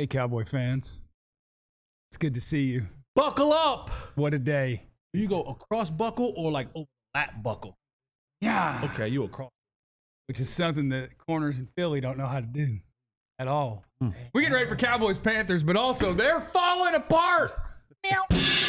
Hey, Cowboy fans. It's good to see you. Buckle up. What a day. You go across buckle or like over lap buckle? Yeah. Okay, you across. Which is something that corners in Philly don't know how to do at all. We're getting ready for Cowboys Panthers, but also they're falling apart. Meow.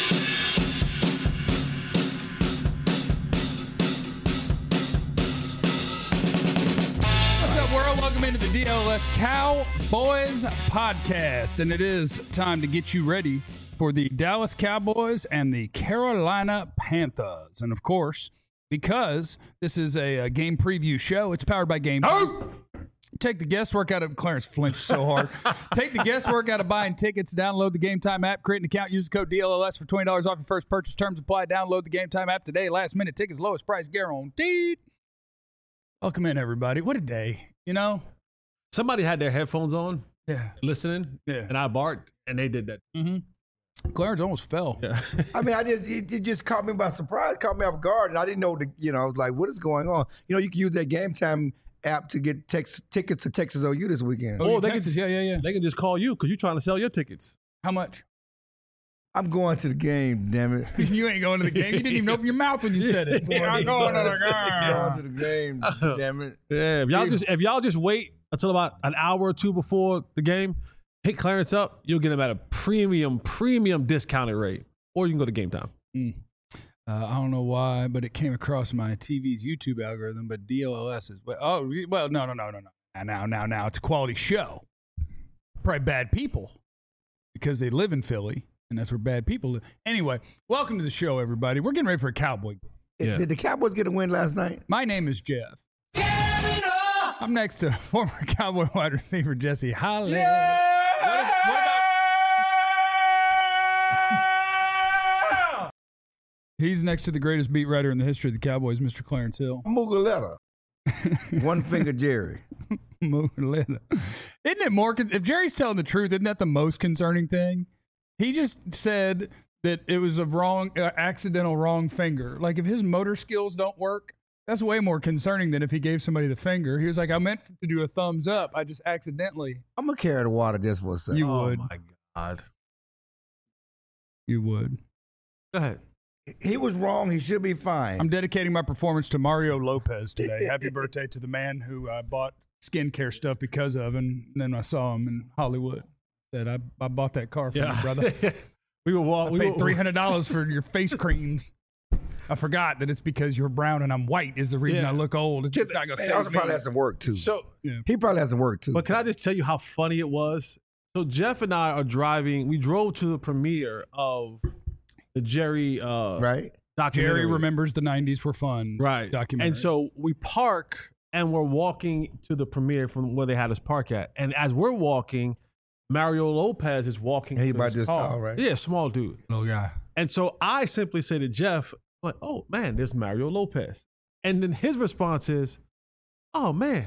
What's up, world? Welcome into the DLS Cowboys podcast. And it is time to get you ready for the Dallas Cowboys and the Carolina Panthers. And of course, because this is a game preview show, it's powered by Game. Take the guesswork out of Clarence flinched so hard. Take the guesswork out of buying tickets. Download the Game Time app. Create an account. Use the code DLLS for $20 off your first purchase. Terms apply. Download the Game Time app today. Last minute tickets, lowest price guaranteed. Welcome in, everybody. What a day. You know? Somebody had their headphones on, listening, and I barked, and they did that. Mm-hmm. Clarence almost fell. Yeah. I mean, it just caught me by surprise, caught me off guard, and I didn't know I was like, what is going on? You know, you can use that Game Time app to get tickets to Texas OU this weekend. Oh, they Texas. can just, They can just call you because you're trying to sell your tickets. How much? I'm going to the game, damn it. You ain't going to the game. You didn't even open your mouth when you said it. I'm going to the game. Going to the game, damn it. Yeah, if y'all just wait until about an hour or two before the game, hit Clarence up, you'll get him at a premium discounted rate. Or you can go to Game Time. I don't know why, but it came across my TV's YouTube algorithm, but DLLS is, no. Now, it's a quality show. Probably bad people because they live in Philly, and that's where bad people live. Anyway, welcome to the show, everybody. We're getting ready for a Cowboy. Yeah. Did the Cowboys get a win last night? My name is Jeff. I'm next to former Cowboy wide receiver Jesse Holland. What about He's next to the greatest beat writer in the history of the Cowboys, Mr. Clarence Hill. Mugaletta. One finger Jerry. Mugaletta. Isn't it more, if Jerry's telling the truth, isn't that the most concerning thing? He just said that it was a accidental wrong finger. Like if his motor skills don't work, that's way more concerning than if he gave somebody the finger. He was like, I meant to do a thumbs up. I just accidentally. I'm going to carry the water just for a second. You would. Oh, my God. You would. Go ahead. He was wrong. He should be fine. I'm dedicating my performance to Mario Lopez today. Happy birthday to the man who I bought skincare stuff because of, and then I saw him in Hollywood. Said, I bought that car for you, brother. We paid $300 for your face creams. I forgot that it's because you're brown and I'm white is the reason I look old. It's not gonna He also probably has some work, too. So He probably has some work, too. But can I just tell you how funny it was? So Jeff and I are driving. We drove to the premiere of the Jerry right? documentary. Jerry Remembers the 90s Were Fun documentary. And so we park and we're walking to the premiere from where they had us park at. And as we're walking, Mario Lopez is walking. He to about his this car. tall, right? Yeah, small dude. Little guy. And so I simply say to Jeff, like, oh, man, there's Mario Lopez. And then his response is, oh, man,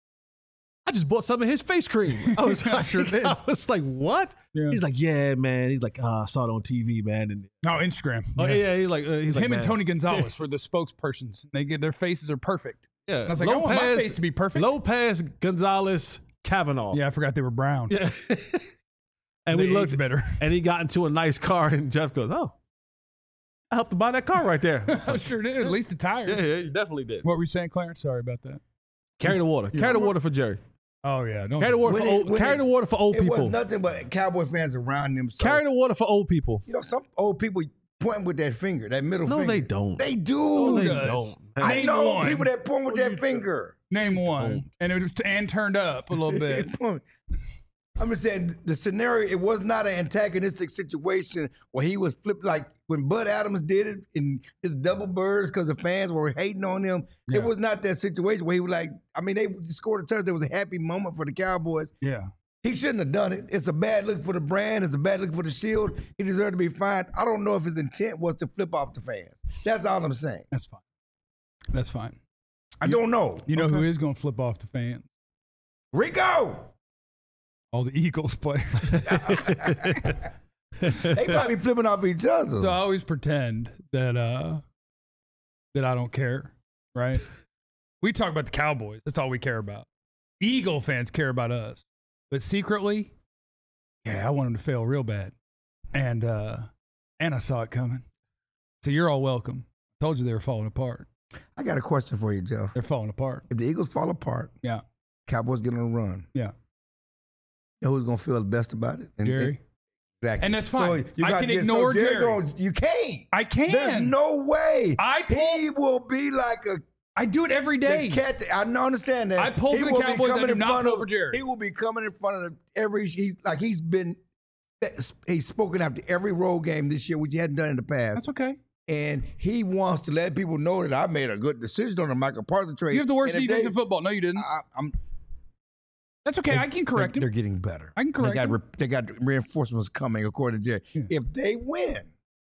I just bought some of his face cream. I was like, what? Yeah. He's like, yeah, man. He's like, I saw it on TV, man. And No, Instagram. oh, yeah, he's like, Him man. and Tony Gonzalez were the spokespersons. Their faces are perfect. Yeah. And I was like, I want my face to be perfect. Lopez, Gonzalez, Kavanaugh. Yeah, I forgot they were brown. Yeah. And They we looked age better. and he got into a nice car, and Jeff goes, oh, I helped to buy that car right there. I sure did. At least the tires. Yeah, you definitely did. What were you saying, Clarence? Sorry about that. Carry the water. Carry the water for Jerry. Oh, yeah. Don't Carry the water When the water for old It people. was nothing but Cowboy fans around him. So, Carry the water for old people. you know, some old people point with that finger, that middle No, finger. they don't. They do. Who They does? don't. I Name know one. people that point with that finger. Name one. And it was turned up a little bit. I'm just saying the scenario, it was not an antagonistic situation where he was flipped like when Bud Adams did it in his double birds because the fans were hating on him. Yeah. It was not that situation where he was like, I mean, they scored a touchdown. It was a happy moment for the Cowboys. Yeah. He shouldn't have done it. It's a bad look for the brand. It's a bad look for the shield. He deserved to be fined. I don't know if his intent was to flip off the fans. That's all I'm saying. That's fine. That's fine. I don't know. You know who is going to flip off the fans? Rico! All the Eagles players. They probably flipping off each other. So I always pretend that I don't care, right? We talk about the Cowboys. That's all we care about. Eagle fans care about us. But secretly, Yeah, I want them to fail real bad. And I saw it coming. So you're all welcome. I told you they were falling apart. I got a question for you, Jeff. They're falling apart. If the Eagles fall apart, Yeah. Cowboys get on a run. Yeah. You know who's gonna feel the best about it? Jerry. Exactly. And that's fine. you I gotta can get- ignore Jerry. You can't. I can. There's no way. He will be like a I do it every day. the cat. I understand that. I pull for the will be Cowboys. I coming do in not front pull of- for Jerry. He will be coming in front of he's spoken after every road game this year, which he hadn't done in the past. That's okay. And he wants to let people know that I made a good decision on the Michael Parsons trade. You have the worst And if defense they- in football. No, you didn't. I'm That's okay. I can correct They're him. getting better. I can correct him. They got reinforcements coming, according to Jerry. Yeah. If they win,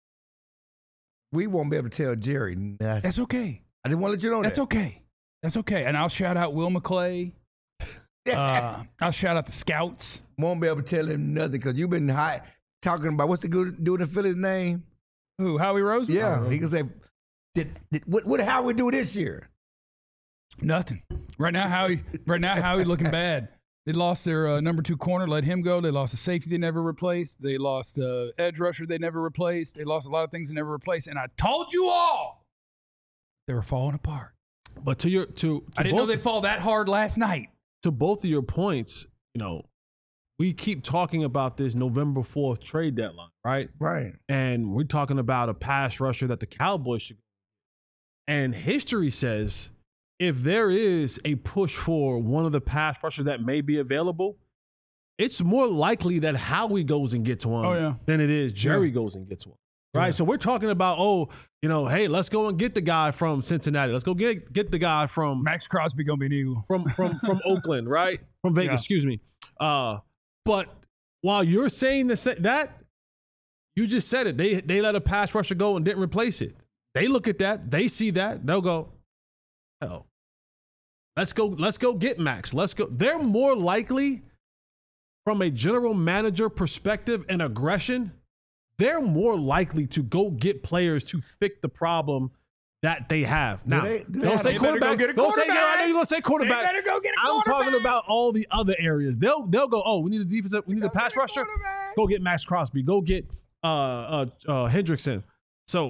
we won't be able to tell Jerry nothing. That's okay. I just want to let you know That's that. okay. That's okay. And I'll shout out Will McClay. I'll shout out the scouts. Won't be able to tell him nothing because you've been talking about what's the good dude in Philly's name? Who? Howie Roseman? Yeah, he can say, what how we do this year? Nothing. Right now, Howie looking bad. They lost their number 2 corner, let him go. They lost a safety they never replaced. They lost edge rusher they never replaced. They lost a lot of things they never replaced. And I told you all they were falling apart. But to I didn't know they'd fall that hard last night. To both of your points, we keep talking about this November 4th trade deadline, right? Right. And we're talking about a pass rusher that the Cowboys should. And history says if there is a push for one of the pass rushers that may be available, it's more likely that Howie goes and gets one than it is Jerry goes and gets one. Right. Yeah. So we're talking about, hey, let's go and get the guy from Cincinnati. Let's go get the guy from Max Crosby gonna be an Eagle. From Oakland, right? From Vegas, excuse me. But while you're saying that, you just said it. They let a pass rusher go and didn't replace it. They look at that, they see that, they'll go, hell, let's go get Max. Let's go. They're more likely, from a general manager perspective and aggression, they're more likely to go get players to fix the problem that they have. Now, don't say quarterback. Don't say, I know you're going to say quarterback. They better go get a I'm quarterback. talking about all the other areas. They'll go, we need a defensive, we need a pass rusher. Go get Max Crosby. Go get Hendrickson. So,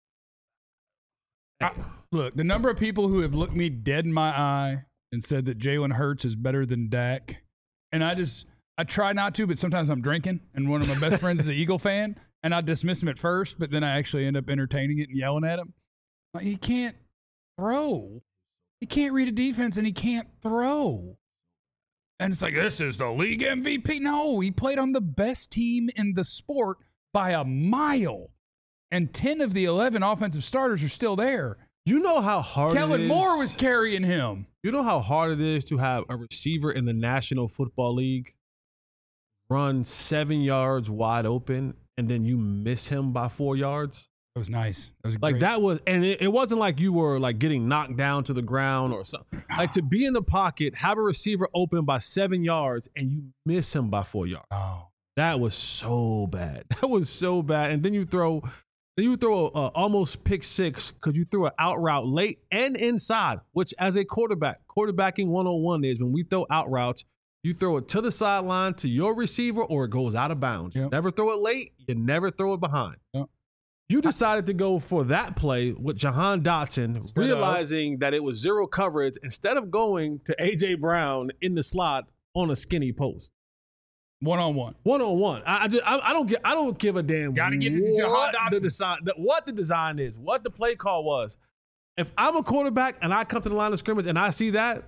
look, the number of people who have looked me dead in my eye and said that Jalen Hurts is better than Dak, and I try not to, but sometimes I'm drinking, and one of my best friends is an Eagle fan, and I dismiss him at first, but then I actually end up entertaining it and yelling at him. Like, he can't throw. He can't read a defense, and he can't throw. And it's like, this is the league MVP. No, he played on the best team in the sport by a mile. And 10 of the 11 offensive starters are still there. You know how hard Kellen it is. Moore was carrying him. You know how hard it is to have a receiver in the National Football League run 7 yards wide open and then you miss him by 4 yards? That was nice. That was like great. that was, and it wasn't like you were like getting knocked down to the ground or something. Like to be in the pocket, have a receiver open by 7 yards and you miss him by 4 yards. Oh, that was so bad. That was so bad. And then you throw a almost pick six because you threw an out route late and inside, which as a quarterbacking 101 is when we throw out routes, you throw it to the sideline to your receiver or it goes out of bounds. Yep. You never throw it late. You never throw it behind. Yep. You decided to go for that play with Jahan Dotson, realizing that it was zero coverage instead of going to A.J. Brown in the slot on a skinny post. One-on-one. One-on-one. I don't give a damn Gotta get it to Jahan Dotson. what the design is, what the play call was. If I'm a quarterback and I come to the line of scrimmage and I see that,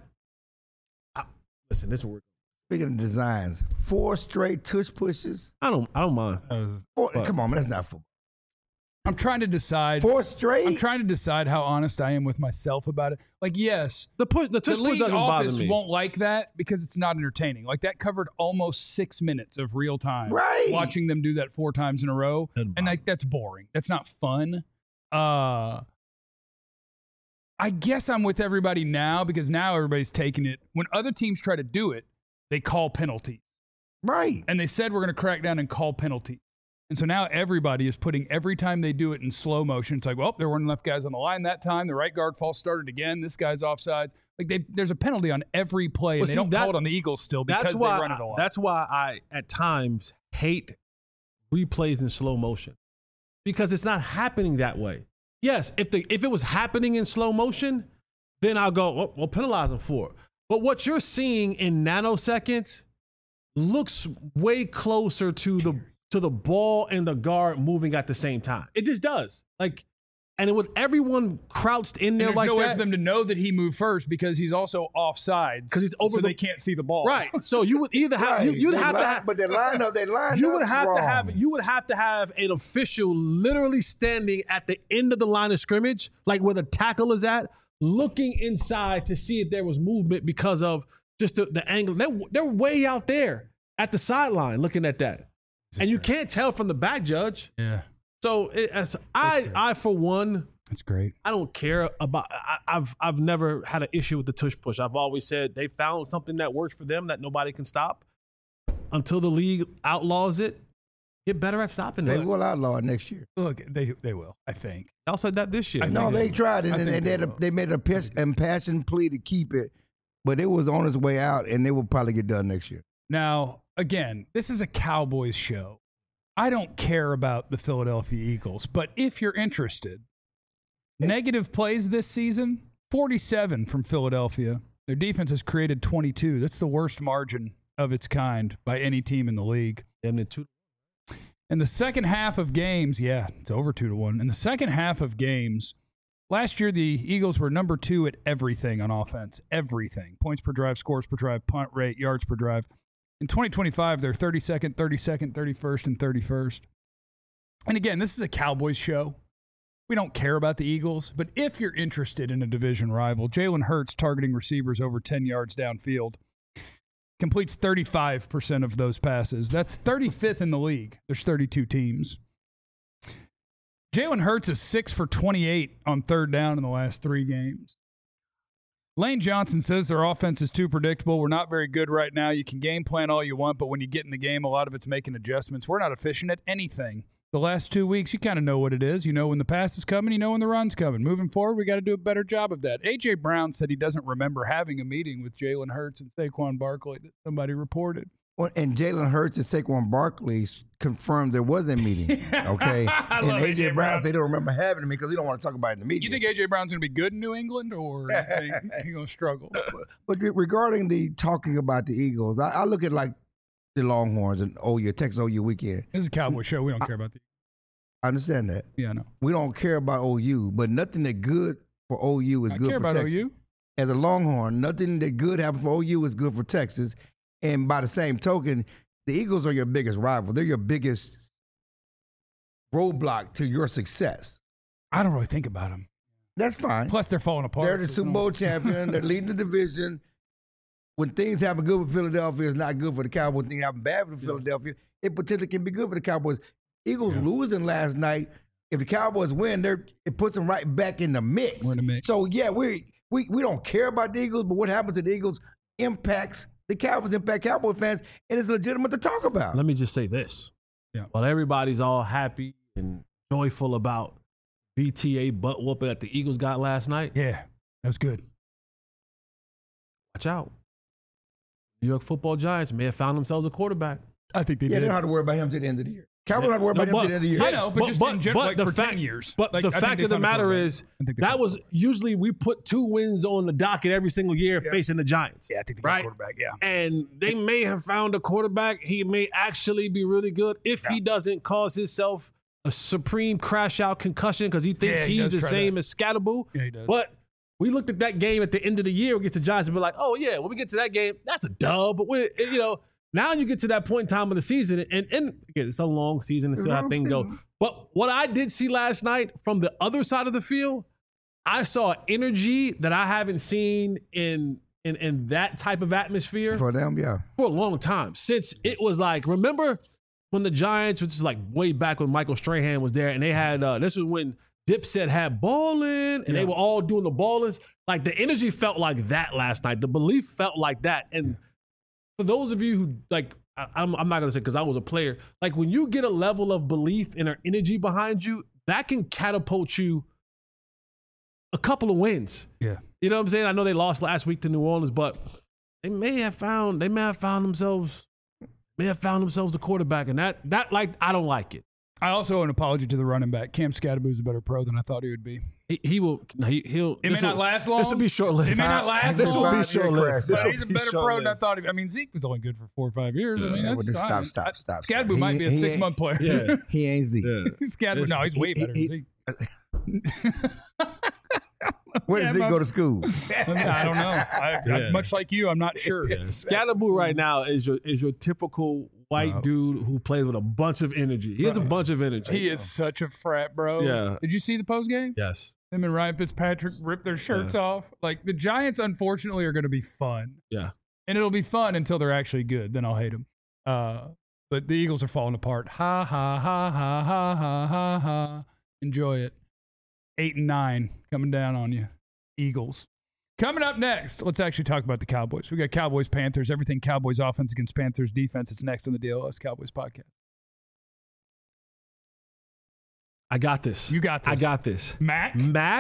listen, this is what we're. Speaking of designs, 4 straight tush pushes. I don't mind. Come on, man, that's not football. I'm trying to decide. 4 straight? I'm trying to decide how honest I am with myself about it. Like, yes, the tush push league doesn't bother office me. won't like that because it's not entertaining. Like, that covered almost 6 minutes of real time. Right. Watching them do that 4 times in a row. And like, that's boring. That's not fun. I guess I'm with everybody now because now everybody's taking it. When other teams try to do it, they call penalties. Right. And they said we're going to crack down and call penalties. And so now everybody is putting every time they do it in slow motion. It's like, well, there weren't enough guys on the line that time. The right guard false started again. This guy's offsides. Like there's a penalty on every play, and they don't call it on the Eagles still because they run it a lot. That's why I, at times, hate replays in slow motion because it's not happening that way. Yes, if it was happening in slow motion, then I'll go, we'll penalize them for it. But what you're seeing in nanoseconds looks way closer to the ball and the guard moving at the same time. It just does. And with everyone crouched in there like that. There's no way for them to know that he moved first because he's also offside. Because he's over they can't see the ball. Right. So you would either have you'd have to have, but they lined up. You would have to have an official literally standing at the end of the line of scrimmage, like where the tackle is at, looking inside to see if there was movement because of just the angle. They're way out there at the sideline looking at that. And you can't tell from the back, Judge. Yeah. So I for one, that's great. I don't care about. I've never had an issue with the tush push. I've always said they found something that works for them that nobody can stop. Until the league outlaws it, get better at stopping it. They will outlaw it next year. Look, they will. I think. I said that this year. No, they tried it, and they made an impassioned plea to keep it, but it was on its way out, and it will probably get done next year. Now, again, this is a Cowboys show. I don't care about the Philadelphia Eagles, but if you're interested, negative plays this season, 47 from Philadelphia. Their defense has created 22. That's the worst margin of its kind by any team in the league. In the second half of games, it's over 2-1. In the second half of games, last year the Eagles were number 2 at everything on offense. Everything. Points per drive, scores per drive, punt rate, yards per drive. In 2025, they're 32nd, 32nd, 31st, and 31st. And again, this is a Cowboys show. We don't care about the Eagles, but if you're interested in a division rival, Jalen Hurts targeting receivers over 10 yards downfield, completes 35% of those passes. That's 35th in the league. There's 32 teams. Jalen Hurts is 6 for 28 on third down in the last 3 games. Lane Johnson says their offense is too predictable. We're not very good right now. You can game plan all you want, but when you get in the game, a lot of it's making adjustments. We're not efficient at anything. The last 2 weeks, you kind of know what it is. You know when the pass is coming. You know when the run's coming. Moving forward, we got to do a better job of that. A.J. Brown said he doesn't remember having a meeting with Jalen Hurts and Saquon Barkley that somebody reported. Well, and Jalen Hurts and Saquon Barkley confirmed there was a meeting. Okay, and A.J. Brown said they don't remember having a meeting because he don't want to talk about it in the media. You think A.J. Brown's going to be good in New England, or you think he's going to struggle? But regarding the talking about the Eagles, I look at like the Longhorns and Texas OU weekend. This is a Cowboy show. We don't care about the. I understand that. Yeah, I know. We don't care about OU, but nothing that good for OU is good for Texas. I care about OU. As a Longhorn, nothing that good happens for OU is good for Texas. And by the same token, the Eagles are your biggest rival. They're your biggest roadblock to your success. I don't really think about them. That's fine. Plus, they're falling apart. They're the Super Bowl champion. They're leading the division. When things happen good for Philadelphia, it's not good for the Cowboys. When things happen bad for Philadelphia, it potentially can be good for the Cowboys. Eagles losing last night. If the Cowboys win, it puts them right back in the mix. We're in the mix. So we don't care about the Eagles, but what happens to the Eagles impacts the Cowboys, impact Cowboy fans, and it's legitimate to talk about. Let me just say this. Yeah. While everybody's all happy and joyful about BTA butt whooping that the Eagles got last night. Yeah, that was good. Watch out. New York Football Giants may have found themselves a quarterback. I think they did. They don't have to worry about him to the end of the year. Cowboys don't have to worry about him to the end of the year. I know, but just in general, like for 10 years. But the fact of the matter is, that was usually we put 2 wins on the docket every single year facing the Giants. Yeah, I think they got a quarterback, And they may have found a quarterback. He may actually be really good if he doesn't cause himself a supreme crash-out concussion because he thinks he's the same as Scatterboo. Yeah, he does. But we looked at that game at the end of the year against the Giants and be like, oh, yeah, when we get to that game, that's a dub. But, now you get to that point in time of the season, and again, it's a long season to see how things go. But what I did see last night from the other side of the field, I saw energy that I haven't seen in that type of atmosphere for them, for a long time. Since it was like, remember when the Giants, which is like way back when Michael Strahan was there, and they had this was when Dipset had ballin', and they were all doing the ballins. Like the energy felt like that last night. The belief felt like that, and for those of you who, like, I'm not going to say because I was a player, like when you get a level of belief and an energy behind you, that can catapult you a couple of wins. Yeah. You know what I'm saying? I know they lost last week to New Orleans, but they may have found themselves may have found themselves a quarterback, and that I don't like it. I also owe an apology to the running back. Cam Scadaboo's a better pro than I thought he would be. He'll. It may not last long. This will be short-lived. It may not last This long. will be short-lived. But he's a better pro than I thought. I mean, Zeke was only good for 4 or 5 years. I mean, that's Stop. Scadaboo might be a 6-month player. Yeah. He ain't Zeke. Scadaboo, no, he's way better than Zeke. Where does Zeke go to school? I don't know. I, much like you, I'm not sure. Scadaboo right now is your typical white dude who plays with a bunch of energy. He has a bunch of energy. He is such a frat, bro. Yeah. Did you see the post game? Yes. Him and Ryan Fitzpatrick ripped their shirts off. Like, the Giants, unfortunately, are going to be fun. Yeah. And it'll be fun until they're actually good. Then I'll hate them. But the Eagles are falling apart. Ha, ha, ha, ha, ha, ha, ha, ha. Enjoy it. 8-9 coming down on you. Eagles. Coming up next, let's actually talk about the Cowboys. We got Cowboys, Panthers, everything Cowboys offense against Panthers defense. It's next on the DLS Cowboys podcast. I got this. You got this. I got this. Mac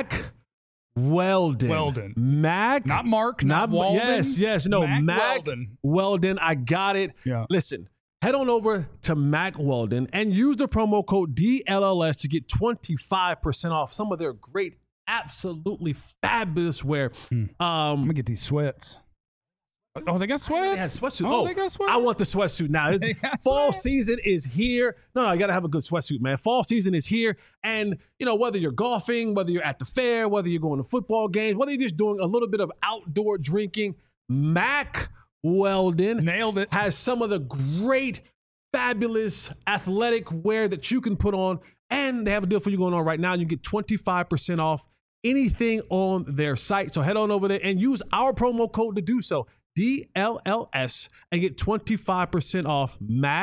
Weldon. Mac. Not Mark, not Walden. Yes. No, Mac Weldon. I got it. Yeah. Listen, head on over to Mac Weldon and use the promo code DLLS to get 25% off some of their great, absolutely fabulous wear. I'm going to get these sweats. Oh, they got sweats? Yeah, sweatsuit. Oh, they got sweats? I want the sweatsuit now. Fall season is here. No, I got to have a good sweatsuit, man. Fall season is here. And, whether you're golfing, whether you're at the fair, whether you're going to football games, whether you're just doing a little bit of outdoor drinking, Mac Weldon nailed it. Has some of the great, fabulous athletic wear that you can put on. And they have a deal for you going on right now. You get 25% off anything on their site. So head on over there and use our promo code to do so. DLLS, and get 25% off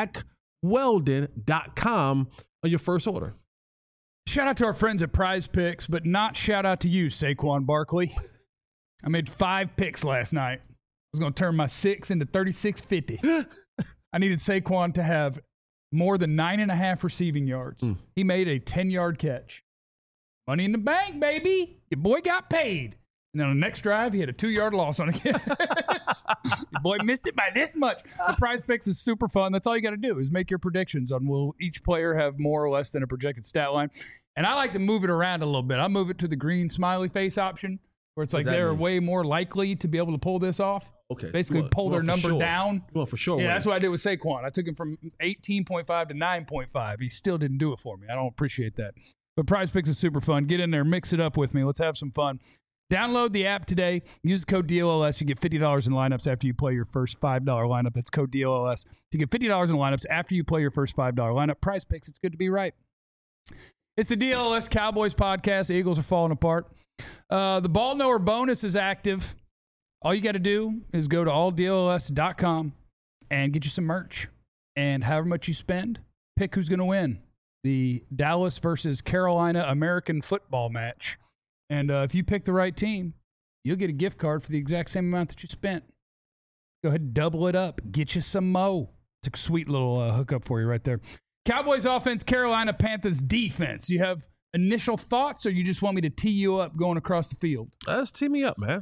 MacWeldon.com on your first order. Shout out to our friends at Prize Picks, but not shout out to you, Saquon Barkley. I made 5 picks last night. I was going to turn my 6 into 36.50. I needed Saquon to have more than 9.5 receiving yards. He made a 10-yard catch. Money in the bank, baby. Your boy got paid. And then on the next drive, he had a 2-yard loss on a catch. Your boy missed it by this much. The Prize Picks is super fun. That's all you got to do is make your predictions on will each player have more or less than a projected stat line. And I like to move it around a little bit. I move it to the green smiley face option, where it's like they're way more likely to be able to pull this off. Okay. Basically pull their number down. Well, for sure. Yeah, that's what I did with Saquon. I took him from 18.5 to 9.5. He still didn't do it for me. I don't appreciate that. But Prize Picks is super fun. Get in there, mix it up with me. Let's have some fun. Download the app today. Use the code DLLS. You get $50 in lineups after you play your first $5 lineup. That's code DLLS. To get $50 in lineups after you play your first $5 lineup. Prize Picks, it's good to be right. It's the DLLS Cowboys podcast. The Eagles are falling apart. The Ball Knower bonus is active. All you got to do is go to alldlls.com and get you some merch. And however much you spend, pick who's going to win the Dallas versus Carolina American football match. And if you pick the right team, you'll get a gift card for the exact same amount that you spent. Go ahead and double it up. Get you some mo. It's a sweet little hookup for you right there. Cowboys offense, Carolina Panthers defense. Do you have initial thoughts, or you just want me to tee you up going across the field? Let's tee me up, man.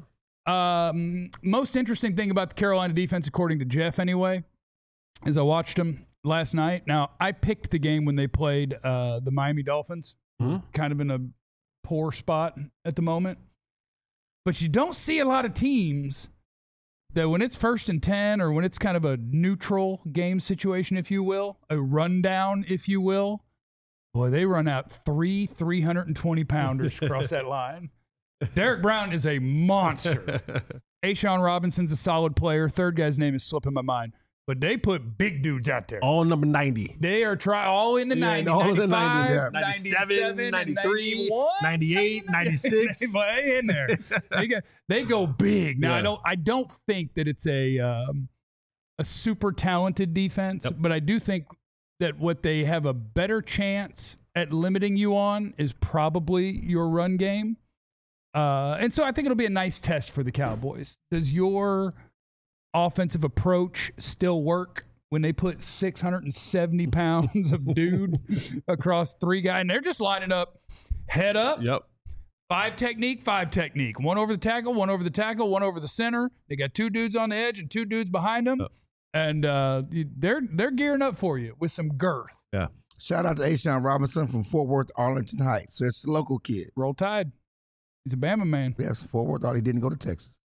Most interesting thing about the Carolina defense, according to Jeff anyway, is I watched them last night. Now, I picked the game when they played the Miami Dolphins, kind of in a poor spot at the moment. But you don't see a lot of teams that when it's 1st and 10 or when it's kind of a neutral game situation, if you will, a rundown, if you will, boy, they run out 320-pounders across that line. Derek Brown is a monster. A'Shawn Robinson's a solid player. Third guy's name is slipping my mind. But they put big dudes out there. All number 90. They are all in the 90s. All in the 90s. 97, 93, 98, 96. Way in there. They go big. Now, I don't think that it's a super talented defense, but I do think that what they have a better chance at limiting you on is probably your run game. And so I think it'll be a nice test for the Cowboys. Does your offensive approach still work when they put 670 pounds of dude across 3 guys? And they're just lining up head up. Yep. 5 technique, 5 technique. 1 over the tackle, 1 over the tackle, 1 over the center. They got 2 dudes on the edge and 2 dudes behind them. And they're gearing up for you with some girth. Yeah. Shout out to Ashawn Robinson from Fort Worth, Arlington Heights. So it's a local kid. Roll Tide. He's a Bama man. Yes, Fort Worth. Thought he didn't go to Texas.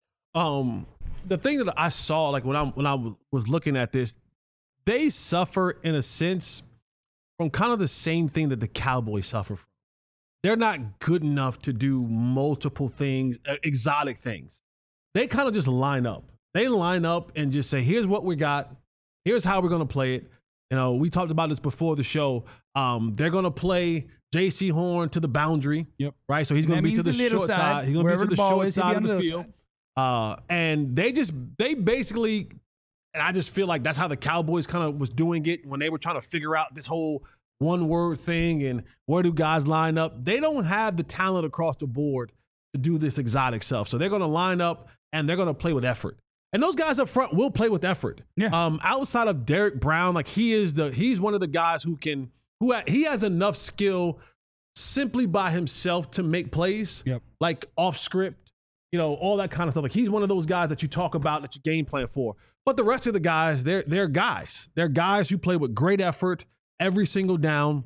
The thing that I saw, like when I was looking at this, they suffer in a sense from kind of the same thing that the Cowboys suffer from. They're not good enough to do multiple things, exotic things. They kind of just line up. They line up and just say, here's what we got. Here's how we're going to play it. You know, we talked about this before the show. They're going to play J.C. Horn to the boundary. Yep. Right? So he's going to be to the short side. He's going to be to the short side of the field. And they basically, and I just feel like that's how the Cowboys kind of was doing it when they were trying to figure out this whole one word thing and where do guys line up. They don't have the talent across the board to do this exotic stuff. So they're going to line up and they're going to play with effort. And those guys up front will play with effort. Yeah. Outside of Derek Brown, like he's one of the guys who he has enough skill simply by himself to make plays. Yep. Like off script, you know, all that kind of stuff. Like he's one of those guys that you talk about that you game plan for. But the rest of the guys, they're guys. They're guys who play with great effort every single down.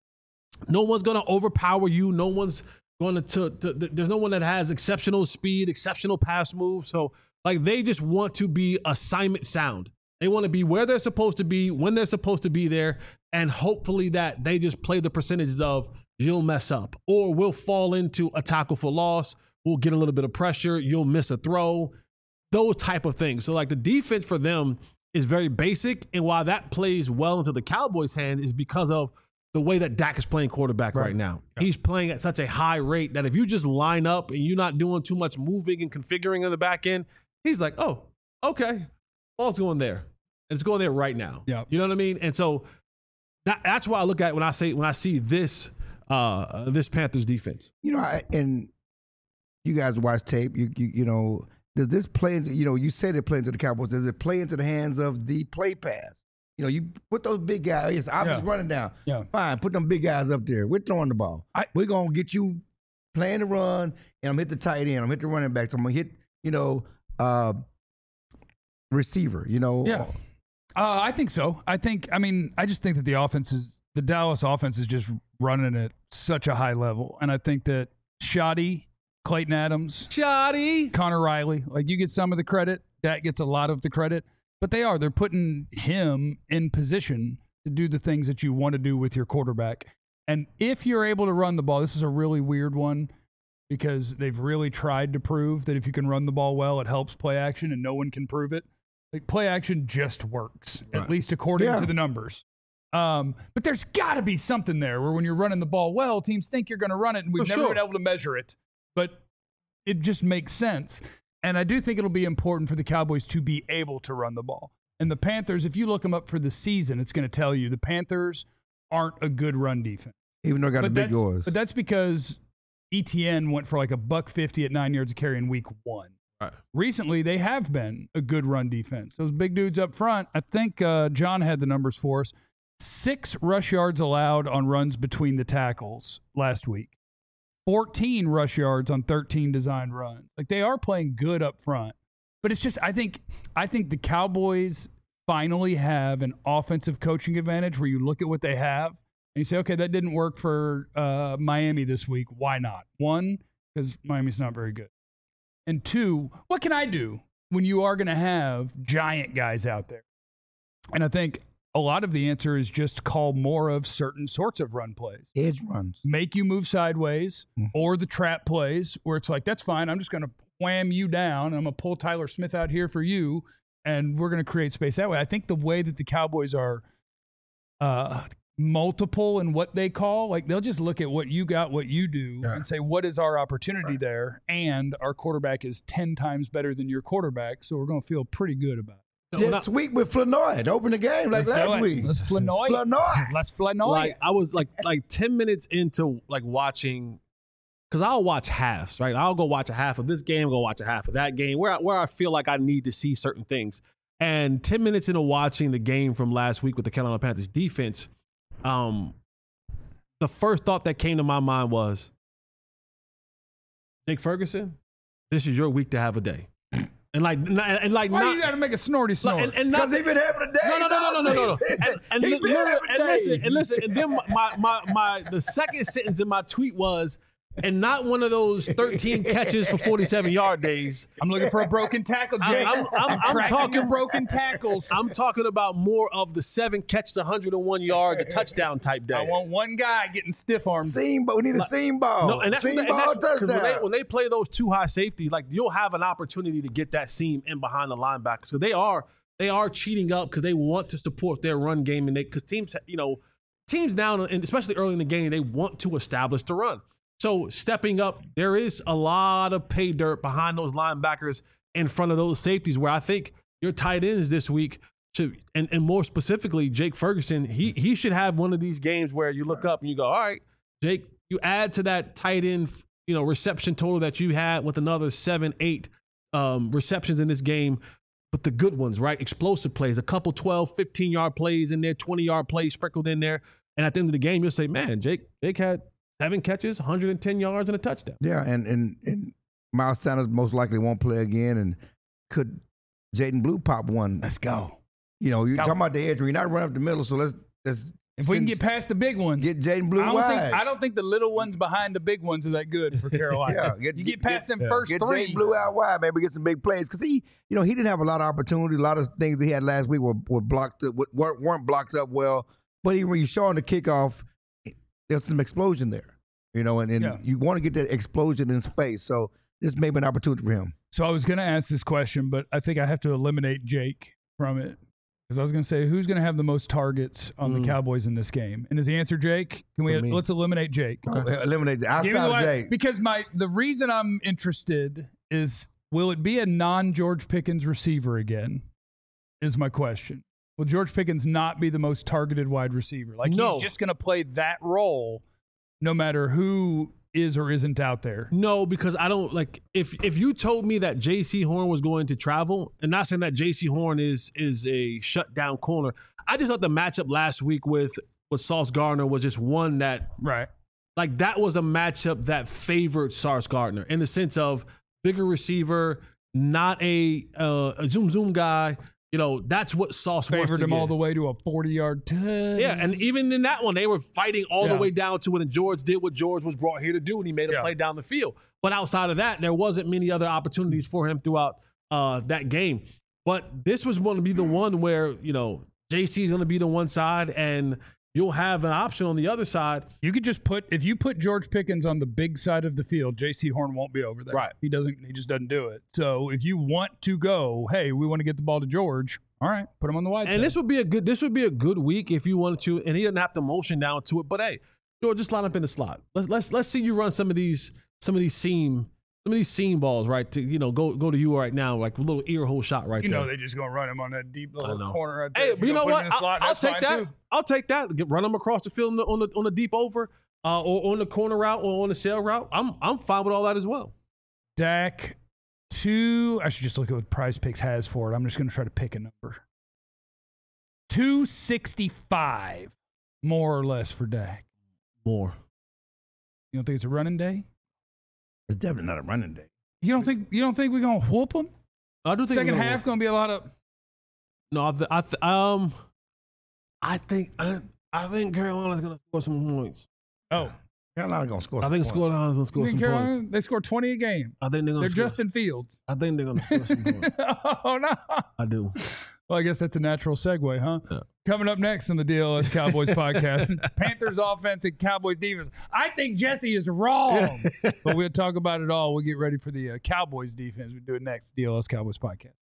No one's going to overpower you. No one's going to there's no one that has exceptional speed, exceptional pass moves. So like they just want to be assignment sound. They want to be where they're supposed to be, when they're supposed to be there, and hopefully that they just play the percentages of you'll mess up or we'll fall into a tackle for loss. We'll get a little bit of pressure. You'll miss a throw, those type of things. So like the defense for them is very basic. And while that plays well into the Cowboys' hand is because of the way that Dak is playing quarterback right now. Yeah. He's playing at such a high rate that if you just line up and you're not doing too much moving and configuring on the back end, he's like, oh, okay, ball's going there. And it's going there right now. Yeah. You know what I mean? And so that's why I look at when I see this Panthers defense. You know, and you guys watch tape. You know, does this play into, you know, you said it play into the Cowboys. Does it play into the hands of the play pass? You know, you put those big guys. Yes, I'm just running down. Yeah. Fine, put them big guys up there. We're throwing the ball. We're going to get you playing the run, and I'm hit the tight end. I'm hit the running back. So I'm going to hit, you know, receiver, you know. Yeah. I think so. I just think that the Dallas offense is just running at such a high level. And I think that Shoddy, Clayton Adams, Connor Riley, like you get some of the credit. Dak gets a lot of the credit. But they're putting him in position to do the things that you want to do with your quarterback. And if you're able to run the ball, this is a really weird one because they've really tried to prove that if you can run the ball well, it helps play action, and no one can prove it. Like play action just works, right, at least according to the numbers. But there's got to be something there where when you're running the ball well, teams think you're going to run it, and we've never been able to measure it. But it just makes sense. And I do think it'll be important for the Cowboys to be able to run the ball. And the Panthers, if you look them up for the season, it's going to tell you the Panthers aren't a good run defense. Even though they got the big yours. But that's because ETN went for like $150 at 9 yards a carry in week 1. Right. Recently, they have been a good run defense. Those big dudes up front, I think John had the numbers for us. 6 rush yards allowed on runs between the tackles last week. 14 rush yards on 13 designed runs. Like they are playing good up front. But it's just I think the Cowboys finally have an offensive coaching advantage where you look at what they have and you say, okay, that didn't work for Miami this week. Why not? 1, because Miami's not very good. And 2, what can I do when you are going to have giant guys out there? And I think a lot of the answer is just call more of certain sorts of run plays. Edge runs. Make you move sideways, or the trap plays where it's like, that's fine. I'm just going to wham you down. And I'm going to pull Tyler Smith out here for you, and we're going to create space that way. I think the way that the Cowboys are multiple in what they call, like they'll just look at what you got, what you do, and say, what is our opportunity there? And our quarterback is 10 times better than your quarterback, so we're going to feel pretty good about it. This week with Flanoy to open the game like last week. Let's Flanoy. Let's Flanoy. Like I was like 10 minutes into like watching, because I'll watch halves, right? I'll go watch a half of this game, go watch a half of that game, where I feel like I need to see certain things. And 10 minutes into watching the game from last week with the Carolina Panthers defense, the first thought that came to my mind was, Nick Ferguson, this is your week to have a day. And like Why not, you got to make a snorty snort? and not Because he been having a day. no. And He been having days. listen. And then my the second sentence in my tweet was, and not one of those 13 catches for 47-yard days. I'm looking for a broken tackle, Jake. I'm tracking talking your broken tackles. I'm talking about more of the 7 catches, 101 yards, the touchdown type day. I want one guy getting stiff armed. Seam ball. We need a seam ball. No, and that's seam ball 'cause touchdown. when they play those too high safety, like you'll have an opportunity to get that seam in behind the linebackers. So they are cheating up because they want to support their run game, and because teams now, and especially early in the game, they want to establish the run. So stepping up, there is a lot of pay dirt behind those linebackers in front of those safeties, where I think your tight ends this week should, and more specifically, Jake Ferguson, he should have one of these games where you look up and you go, all right, Jake, you add to that tight end, reception total that you had with another 7-8 receptions in this game, but the good ones, right? Explosive plays, a couple 12, 15-yard plays in there, 20-yard plays sprinkled in there. And at the end of the game, you'll say, man, Jake had 7 catches, 110 yards, and a touchdown. Yeah, and Miles Sanders most likely won't play again. And could Jaden Blue pop one? Let's go. You're talking about the edge. You're not running up the middle, so let's If we can get past the big ones, get Jaden Blue wide. I don't think the little ones behind the big ones are that good for Carolina. Yeah, you get past them first get 3. Jaden Blue out wide, maybe get some big plays because he didn't have a lot of opportunities. A lot of things he had last week were blocked up, weren't blocked up well. But even when you saw on the kickoff, there's some explosion there. And you want to get that explosion in space. So this may be an opportunity for him. So I was going to ask this question, but I think I have to eliminate Jake from it. Because I was going to say, who's going to have the most targets on the Cowboys in this game? And is the answer Jake? Let's eliminate Jake. Eliminate outside of Jake. Because the reason I'm interested is, will it be a non-George Pickens receiver again? Is my question. Will George Pickens not be the most targeted wide receiver? He's just going to play that role no matter who is or isn't out there. No, because I don't if you told me that J.C. Horn was going to travel, and not saying that J.C. Horn is a shutdown corner, I just thought the matchup last week with Sauce Gardner was just one that that was a matchup that favored Sauce Gardner in the sense of bigger receiver, not a zoom guy. That's what Sauce favored him all the way to a 40-yard touchdown. Yeah, and even in that one, they were fighting all the way down to when George did what George was brought here to do, and he made a play down the field. But outside of that, there wasn't many other opportunities for him throughout that game. But this was going to be the one where, JC is going to be the one side, and you'll have an option on the other side. You could just if you put George Pickens on the big side of the field, J.C. Horn won't be over there. Right. He just doesn't do it. So if you want to go, hey, we want to get the ball to George, all right, put him on the wide side. And this would be a good week if you wanted to, and he doesn't have to motion down to it. But hey, George, just line up in the slot. Let's see you run some of these seam balls, right? To go to you right now, like a little ear hole shot right there. They just gonna run him on that deep little corner right there. Hey, but you know what? I'll take that. Too. I'll take that. Run them across the field on the deep over, or on the corner route, or on the sail route. I'm fine with all that as well. Dak 2. I should just look at what Prize Picks has for it. I'm just gonna try to pick a number. 265, more or less for Dak. More. You don't think it's a running day? It's definitely not a running day. You don't think we're gonna whoop them? I do think second half gonna be a lot of. No, I think Carolina's gonna score some points. Oh, Carolina's gonna score. I think Carolina's gonna score some points. They score 20 a game. I think they're Justin Fields. I think they're gonna score some points. Oh no! I do. Well, I guess that's a natural segue, huh? Yeah. Coming up next on the DLS Cowboys podcast, Panthers offense and Cowboys defense. I think Jesse is wrong, but we'll talk about it all. We'll get ready for the Cowboys defense. We'll do it next, DLS Cowboys podcast.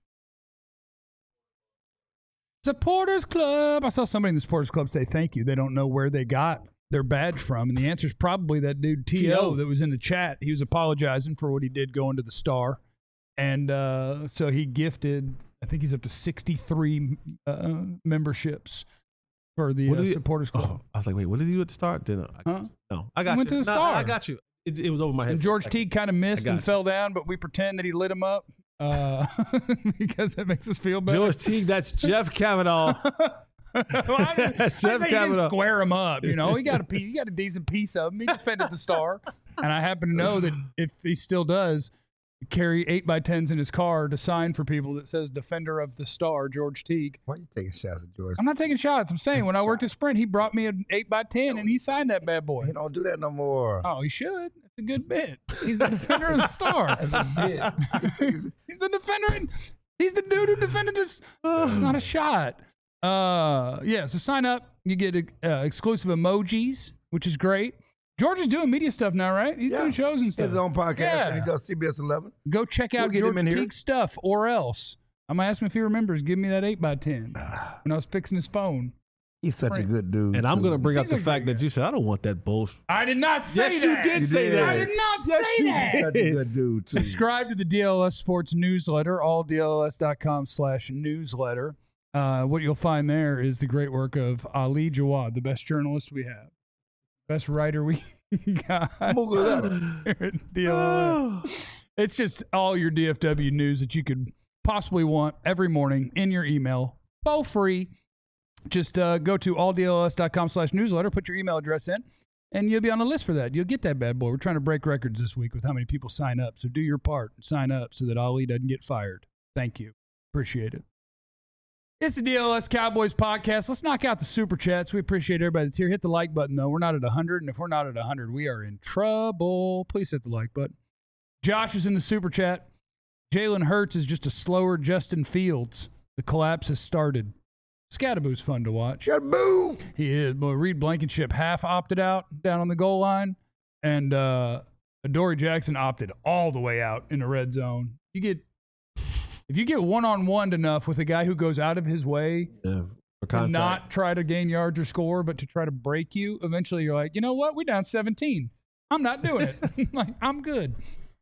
Supporters Club. I saw somebody in the Supporters Club say thank you. They don't know where they got their badge from, and the answer is probably that dude T.O. that was in the chat. He was apologizing for what he did going to the Star, and so he gifted, I think he's up to 63 memberships for the Supporters Club. Oh, I was like, wait, what did he do at the start? No, I got you. Went to the Star. I got you. It was over my head. And George Teague kind of missed and fell down, but we pretend that he lit him up because it makes us feel better. George Teague, that's Jeff Kavanaugh. I didn't square him up. He got a decent piece of him. He defended the Star, and I happen to know that if he still does, carry 8x10s in his car to sign for people that says Defender of the Star, George Teague. Why are you taking shots at George? I'm not taking shots. I'm saying That's when a I worked shot. at Sprint, he brought me an 8x10 and he signed that bad boy. He don't do that no more. Oh, he should. It's a good bit. He's the Defender of the Star. That's a bit. He's the defender. He's the dude who defended this. It's not a shot. So sign up. You get exclusive emojis, which is great. George is doing media stuff now, right? He's doing shows and He stuff. has his own podcast, Yeah. and he does CBS 11. Go check out We'll get him George in here. Teague's stuff, or else. I'm going to ask him if he remembers. Give me that 8x10 when I was fixing his phone. He's such a good dude. And I'm too. going to bring up Seems the like fact a that you said, I don't want that bullshit. I did not say Yes, that. you did say did. that. I did not Yes, say you that. did. Such a good dude, too. Subscribe to the DLS Sports newsletter, alldls.com/newsletter. What you'll find there is the great work of Ali Jawad, the best journalist we have, best writer we got here at DLS. It's just all your DFW news that you could possibly want every morning in your email, for free. Just go to alldls.com/newsletter, put your email address in, and you'll be on the list for that. You'll get that bad boy. We're trying to break records this week with how many people sign up. So do your part and sign up so that Ali doesn't get fired. Thank you. Appreciate it. It's the DLS Cowboys podcast. Let's knock out the super chats. We appreciate everybody that's here. Hit the like button, though. We're not at 100, and if we're not at 100, we are in trouble. Please hit the like button. Josh is in the super chat. Jalen Hurts is just a slower Justin Fields. The collapse has started. Scatterboo's fun to watch. Boo! He is. Boy, Reed Blankenship half opted out down on the goal line, and Adoree Jackson opted all the way out in the red zone. If you get one-on-one enough with a guy who goes out of his way Yeah, for to contact. not try to gain yards or score, but to try to break you, eventually you're like, you know what? We down 17. I'm not doing it. Like, I'm good.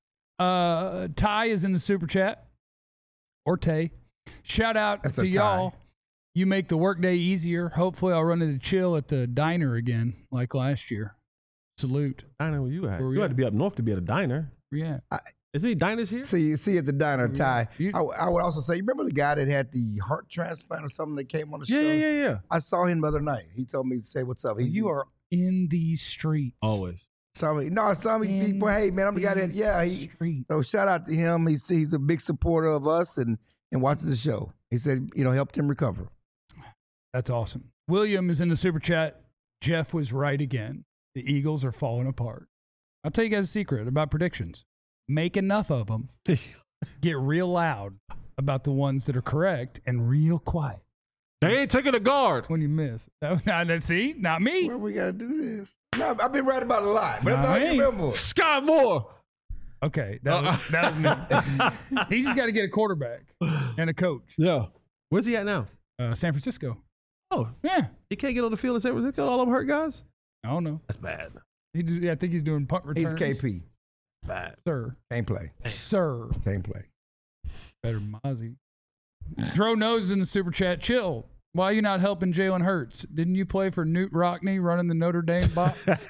Ty is in the super chat. Or Tay. Shout out That's a to tie. y'all. You make the workday easier. Hopefully I'll run into Chill at the diner again like last year. Salute. Diner where you at? Where we You at? had to be up north to be at a diner. Yeah. Is there any diners here? See at the diner, Ty. You- I would also say, you remember the guy that had the heart transplant or something that came on the show? Yeah. I saw him the other night. He told me to say what's up. You are in these streets. Always. Saw me. No, I saw me. In People, hey man, I'm the guy that. these Yeah. streets. So shout out to him. He's a big supporter of us and watches the show. He said, helped him recover. That's awesome. William is in the super chat. Jeff was right again. The Eagles are falling apart. I'll tell you guys a secret about predictions. Make enough of them. Get real loud about the ones that are correct and real quiet They ain't taking a guard. when you miss. See, not me. Where we gotta do this? No, I've been right about a lot, but that's all Nah, you remember. Scott Moore. Okay, that was me. He just got to get a quarterback and a coach. Yeah. Where's he at now? San Francisco. Oh, Yeah, he can't get on the field in San Francisco. All them hurt guys. I don't know. That's bad. I think he's doing punt returns. He's KP. Bad. Sir. Can't play. Sir. Can't play. Better than Mozzie. Dro knows in the super chat. Chill. Why are you not helping Jalen Hurts? Didn't you play for Newt Rockney running the Notre Dame box?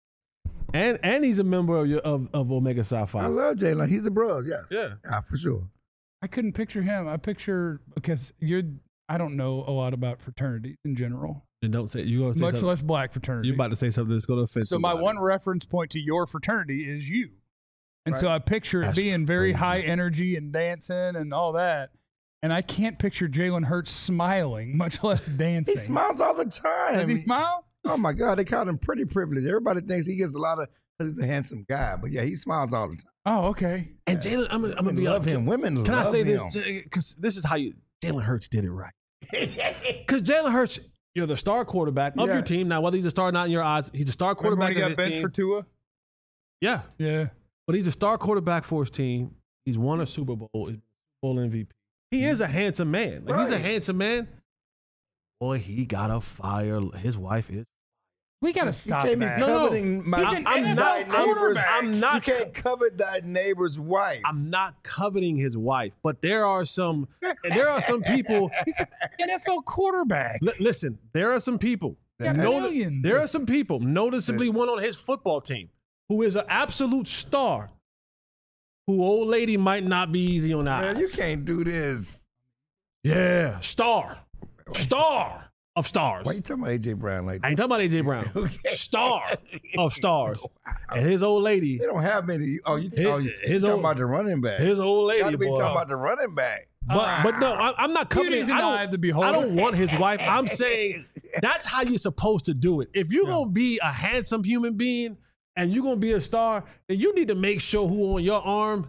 And he's a member of Omega Psi I Phi. love Jalen. He's the bros. Yeah. Yeah. For sure. I couldn't picture him. Because I don't know a lot about fraternities in general, And don't say you gonna say much something. less black fraternities. You're about to say something that's gonna offend So my somebody. one reference point to your fraternity is you. And so Right. I picture it That's being very crazy. high energy and dancing and all that. And I can't picture Jalen Hurts smiling, much less dancing. He smiles all the time. Does he smile? Oh my God, they call him pretty privileged. Everybody thinks he gets a lot of because he's a handsome guy, but yeah, he smiles all the time. Oh, okay. And Jalen, I'm gonna Women be love honest. him. Women Can I love say him. this? Because this is how Jalen Hurts did it right. Because Jalen Hurts, you're the star quarterback of Yeah. your team. Now, whether he's a star or not in your eyes, he's a star Remember when quarterback he of got his benched team. for Tua? Yeah, Yeah. but he's a star quarterback for his team. He's won a Super Bowl. He's Super Bowl MVP. He is a handsome man. Like, he's a Right. handsome man. Boy, he got a fire. His wife is. We got to You stop can't be that. No, coveting my He's an thy NFL neighbor's. quarterback. I'm not. You can't covet thy neighbor's wife. I'm not coveting his wife, but there are some people. He's an NFL quarterback. Listen, there are some people. Got millions. There are some people, noticeably one on his football team, who is an absolute star, who old lady might not be easy on the eyes. Man, you can't do this. Yeah, star. of stars. Why you talking about A.J. Brown like that? I ain't talking about A.J. Brown. Star of stars. And his old lady. They don't have many. Oh, you talking about the running back. His old lady, Gotta be boy. talking about the running back. But no, I'm not coming. Beauty's in the eye of the beholder. I don't want his wife. I'm saying that's how you're supposed to do it. If you're gonna be a handsome human being and you're gonna be a star, then you need to make sure who on your arm.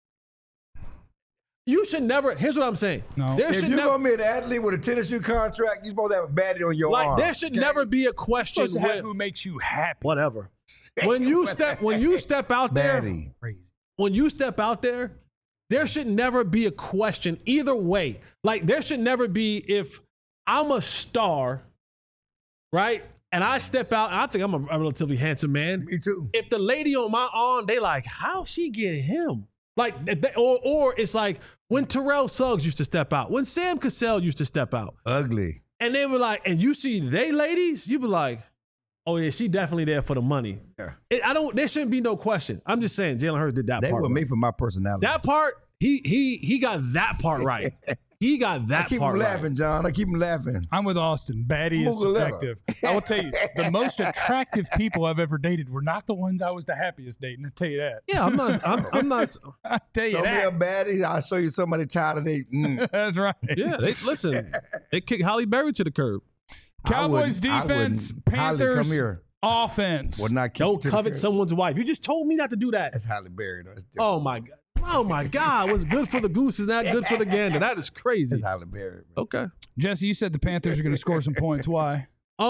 You should never. Here's what I'm saying. No. If you're gonna be an athlete with a tennis shoe contract, you're supposed to have a baddie on your arm. There should never be a question. Supposed to have who makes you happy. Whatever. When you step out there, Baddie. Crazy. when you step out there, there should never be a question either way. Like, there should never be, if I'm a star, right, and I step out, and I think I'm a relatively handsome man. Me too. If the lady on my arm, they like, how she get him? Like, or it's like when Terrell Suggs used to step out, when Sam Cassell used to step out, Ugly. and they were like, and you see they ladies, you be like, oh yeah, she definitely there for the money. Yeah. There shouldn't be no question. I'm just saying, Jalen Hurts did that They part. were right. made for my personality. That part, he got that part right. He got that I keep part him right. laughing, John. I keep him laughing. I'm with Austin. Baddie is Moogalella. subjective. I will tell you, the most attractive people I've ever dated were not the ones I was the happiest dating. I'll tell you that. Yeah, I'm not. I'm not. I'll tell you Show me a that. baddie. I'll show you somebody tired of they. That's right. Yeah, listen. They kicked Halle Berry to the curb. Cowboys I wouldn't. defense, Holly, Panthers come here. offense. Would not kick Don't to the covet curb. someone's wife. You just told me not to do that. That's Halle Berry. Though. That's Oh my God. Oh my God. What's good for the goose is not good for the gander. That is crazy. That's Halle Berry. Bro. Okay. Jesse, you said the Panthers are going to score some points. Why?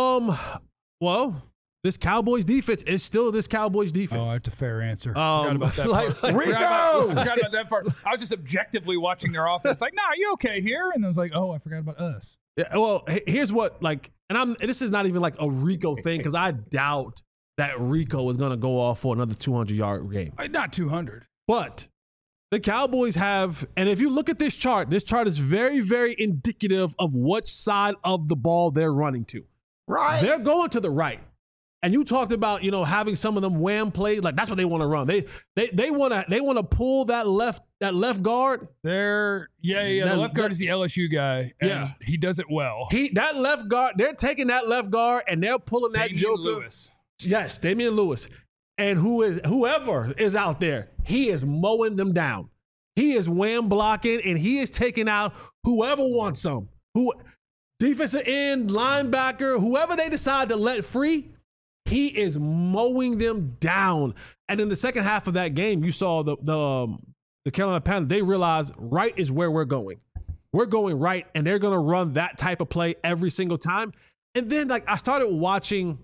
Well, this Cowboys defense is still this Cowboys defense. Oh, that's a fair answer. Forgot about that like- part. like- Rico! Forgot about that part. I was just objectively watching their offense. Like, nah, you okay here? And I was like, oh, I forgot about us. Yeah, well, here's what, like, and this is not even like a Rico thing, because I doubt that Rico is going to go off for another 200-yard game. Not 200. But the Cowboys have, and if you look at this chart is very, very indicative of which side of the ball they're running to. Right. They're going to the right. And you talked about, having some of them wham plays, like that's what they want to run. They want to pull that left guard. The left guard is the LSU guy. And Yeah. he does it well. That left guard, they're taking that left guard and they're pulling that Damian joker. Lewis. Yes, Damian Lewis. And whoever is out there, he is mowing them down. He is wham blocking and he is taking out whoever wants some. Defensive end, linebacker, whoever they decide to let free, he is mowing them down. And in the second half of that game, you saw the Carolina Panthers, they realized right is where we're going. We're going right, and they're going to run that type of play every single time. And then, like, I started watching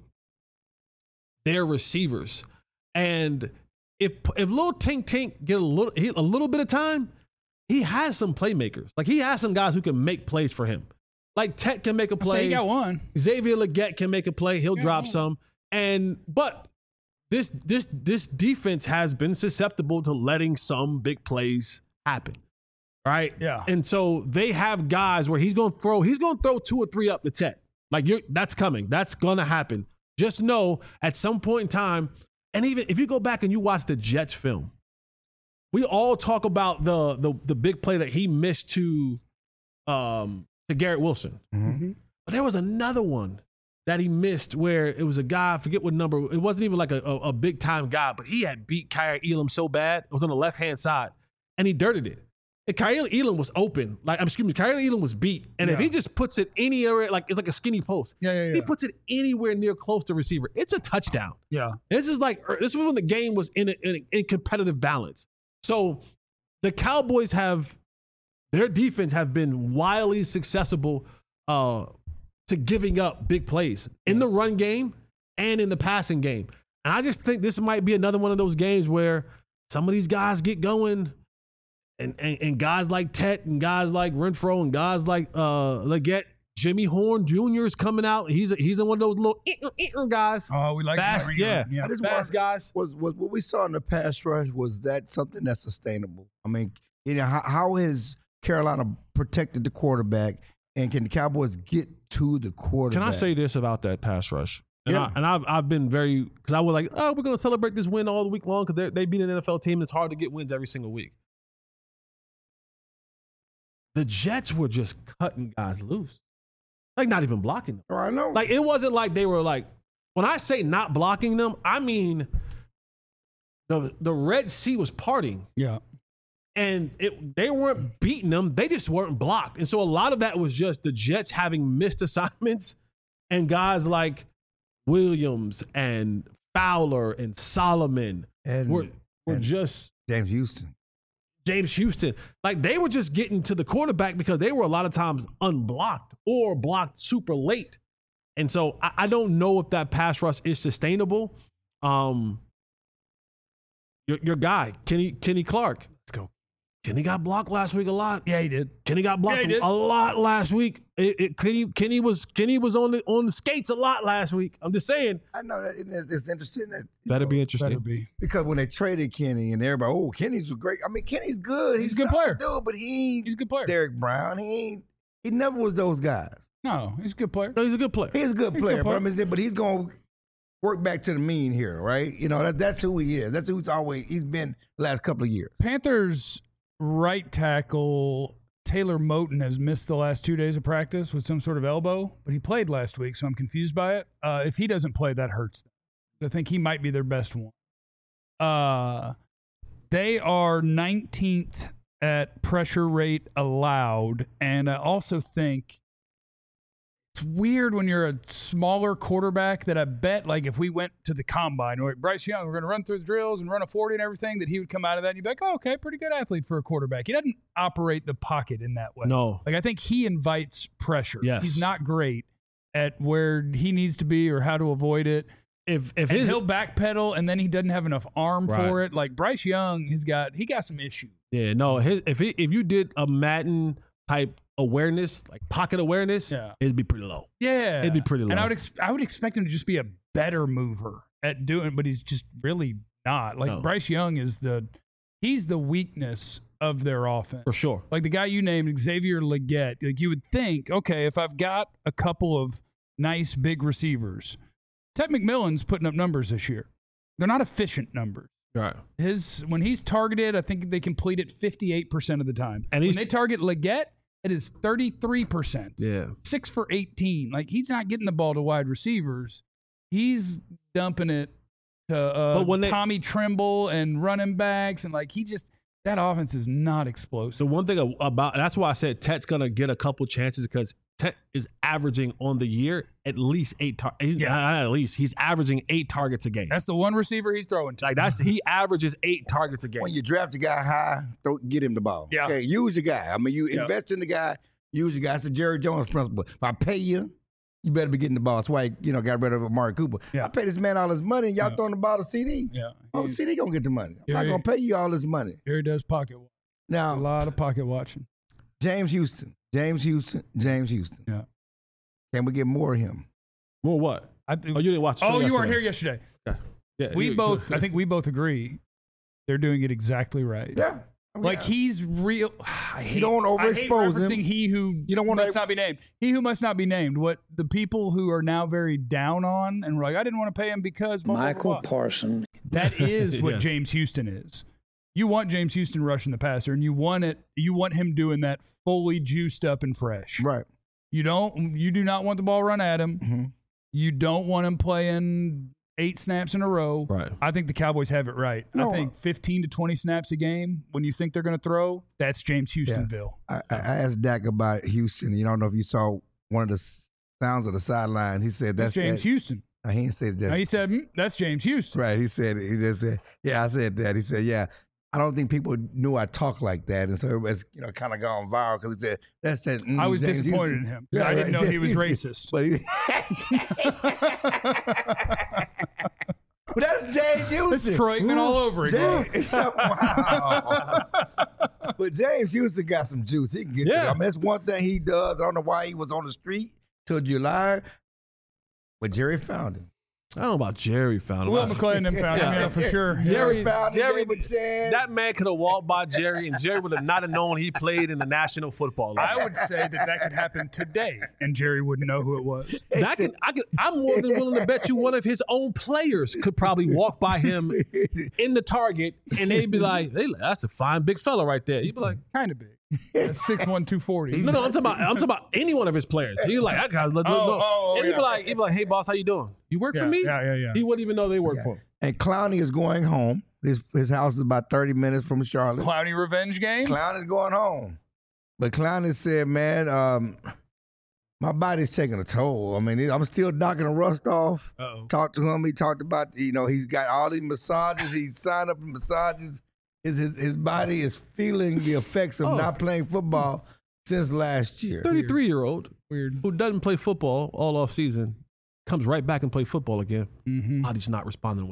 their receivers. And if little Tink Tink get a little bit of time, he has some playmakers. Like, he has some guys who can make plays for him. Like, Tet can make a play. He got one. Xavier Legette can make a play. He'll drop some. But this defense has been susceptible to letting some big plays happen. Right? Yeah. And so they have guys where he's gonna throw 2 or 3 up the Tet. Like, that's coming. That's gonna happen. Just know at some point in time, and even if you go back and you watch the Jets film, we all talk about the big play that he missed to Garrett Wilson. Mm-hmm. But there was another one that he missed where it was a guy, I forget what number, it wasn't even like a big time guy, but he had beat Kyrie Elam so bad, it was on the left-hand side, and he dirted it. And Kyrie Elam was open. Kyrie Elam was beat. And if he just puts it anywhere, like it's like a skinny post. Yeah. He puts it anywhere near close to receiver. It's a touchdown. Yeah. This is when the game was in competitive balance. So the Cowboys their defense have been wildly successful to giving up big plays in the run game and in the passing game. And I just think this might be another one of those games where some of these guys get going and guys like Tet and guys like Renfro and guys like Legette, Jimmy Horn Jr. is coming out. He's in one of those little guys. Oh, we like Fast, that. yeah. I just Fast guys. Was what we saw in the pass rush, was that something that's sustainable? I mean, how has Carolina protected the quarterback, and can the Cowboys get to the quarterback? Can I say this about that pass rush? And, Yeah. I've been very, because I was like, we're going to celebrate this win all the week long because they beat an NFL team. It's hard to get wins every single week. The Jets were just cutting guys loose. Like, not even blocking them. Oh, I know. Like, it wasn't like they were like, when I say not blocking them, I mean the Red Sea was parting. Yeah. And they weren't beating them. They just weren't blocked. And so a lot of that was just the Jets having missed assignments and guys like Williams and Fowler and Solomon were just James Houston. Like, they were just getting to the quarterback because they were a lot of times unblocked or blocked super late. And so I don't know if that pass rush is sustainable. Your guy, Kenny Clark. Let's go. Kenny got blocked last week a lot. Yeah, he did. Kenny got blocked a lot last week. Kenny was on the skates a lot last week. I'm just saying. I know that it's interesting. That Better be interesting. Better be. Because when they traded Kenny and everybody, Kenny's great. I mean, Kenny's good. He's a good player. Dude, but he's a good player. Derek Brown. He never was those guys. No, he's a good player. No, he's a good player. He's a good player. But he's going to work back to the mean here, right? You know, that's who he is. That's who he's been the last couple of years. Panthers right tackle Taylor Moton has missed the last 2 days of practice with some sort of elbow, but he played last week, so I'm confused by it. If he doesn't play, that hurts them. I think he might be their best one. They are 19th at pressure rate allowed, and I also think it's weird when you're a smaller quarterback that I bet, like, if we went to the combine, or Bryce Young, we're going to run through the drills and run a 40 and everything, that he would come out of that and you'd be like, oh, okay, pretty good athlete for a quarterback. He doesn't operate the pocket in that way. No. Like, I think he invites pressure. Yes. He's not great at where he needs to be or how to avoid it. If he'll backpedal and then he doesn't have enough arm for it. Like, Bryce Young, he got some issues. Yeah, no. If you did a Madden type awareness, like pocket awareness, it'd be pretty low. Yeah, it'd be pretty low. And I would expect him to just be a better mover at doing, but he's just really not. Like, Bryce Young he's the weakness of their offense for sure. Like the guy you named, Xavier Legette. Like, you would think, okay, if I've got a couple of nice big receivers, Ted McMillan's putting up numbers this year. They're not efficient numbers. Right. When he's targeted, I think they complete it 58% of the time. And when they target Legette, it is 33%. Yeah. 6 for 18. Like, he's not getting the ball to wide receivers. He's dumping it to Tommy Tremble and running backs. And, like, that offense is not explosive. So one thing about, and that's why I said Tet's going to get a couple chances, because Tet is averaging on the year at least 8 targets. Not at least. He's averaging 8 targets a game. That's the one receiver he's throwing to. Like, he averages 8 targets a game. When you draft a guy high, don't get him the ball. Yeah. Okay, use your guy. I mean, you invest in the guy, use your guy. It's the Jerry Jones principle. If I pay you, you better be getting the ball. That's why he, got rid of Amari Cooper. Yeah. I pay this man all his money, and y'all throwing the ball to CD. Yeah. Oh, CD gonna get the money. I'm not gonna pay you all this money. Jerry does pocket watch. Now, a lot of pocket watching. James Houston. Yeah. Can we get more of him? More what? You didn't watch. You weren't here yesterday. Yeah. I think we both agree they're doing it exactly right. Yeah. He's real. You don't overexpose him. He who must not be named. He who must not be named. What the people who are now very down on and were like, I didn't want to pay him because Michael Parsons. That is what James Houston is. You want James Houston rushing the passer, and you want him doing that fully juiced up and fresh. Right. You do not want the ball run at him. Mm-hmm. You don't want him playing 8 snaps in a row. Right. I think the Cowboys have it right. I think 15 to 20 snaps a game, when you think they're going to throw, that's James Houstonville. I asked Dak about Houston. You don't know if you saw one of the sounds of the sideline. He said that's James Houston. He didn't say that. He said, that's James Houston. Right. He just said, yeah, I said that. He said, yeah. I don't think people knew I talked like that, and so everybody's kind of gone viral because he said that's that. I was James disappointed Houston. in him because I didn't know he was racist. But that's James Houston. It's Troyman all over again. Wow. But James Houston got some juice. He can get there. I mean, that's one thing he does. I don't know why he was on the street till July, but Jerry found him. I don't know about Jerry found him. Will McClay and them found him, for sure. Jerry found him. That man could have walked by Jerry, and Jerry would have not have known he played in the National Football League. I would say that could happen today, and Jerry wouldn't know who it was. I'm more than willing to bet you one of his own players could probably walk by him in the target, and they'd be like, hey, that's a fine big fella right there. He'd be like, kind of big. That's 6'1", 240. No, I'm talking about any one of his players. He's like, I got no. And he'd be like, hey boss, how you doing? You work for me? Yeah. He wouldn't even know they work for him. And Clowney is going home. His house is about 30 minutes from Charlotte. Clowney revenge game? Clowney's going home. But Clowney said, man, my body's taking a toll. I mean, I'm still knocking the rust off. Talked to him. He talked about, he's got all these massages. He's signed up for massages. His body is feeling the effects of not playing football since last year. 33-year-old who doesn't play football all off season comes right back and play football again. Mm-hmm. Body's not responding.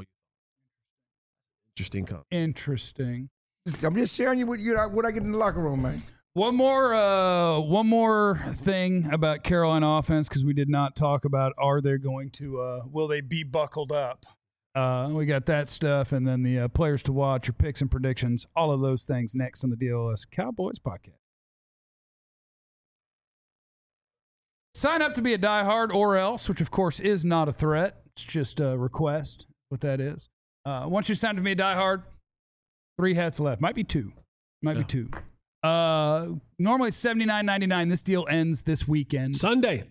Interesting. I'm just sharing you what I get in the locker room, man. One more thing about Carolina offense, because we did not talk about will they be buckled up? We got that stuff, and then the players to watch, your picks and predictions, all of those things next on the DLS Cowboys podcast. Sign up to be a diehard or else, which of course is not a threat. It's just a request, what that is. Once you sign up to be a diehard, 3 hats left. Might be 2. Be 2. Normally $79.99. This deal ends this weekend. Sunday,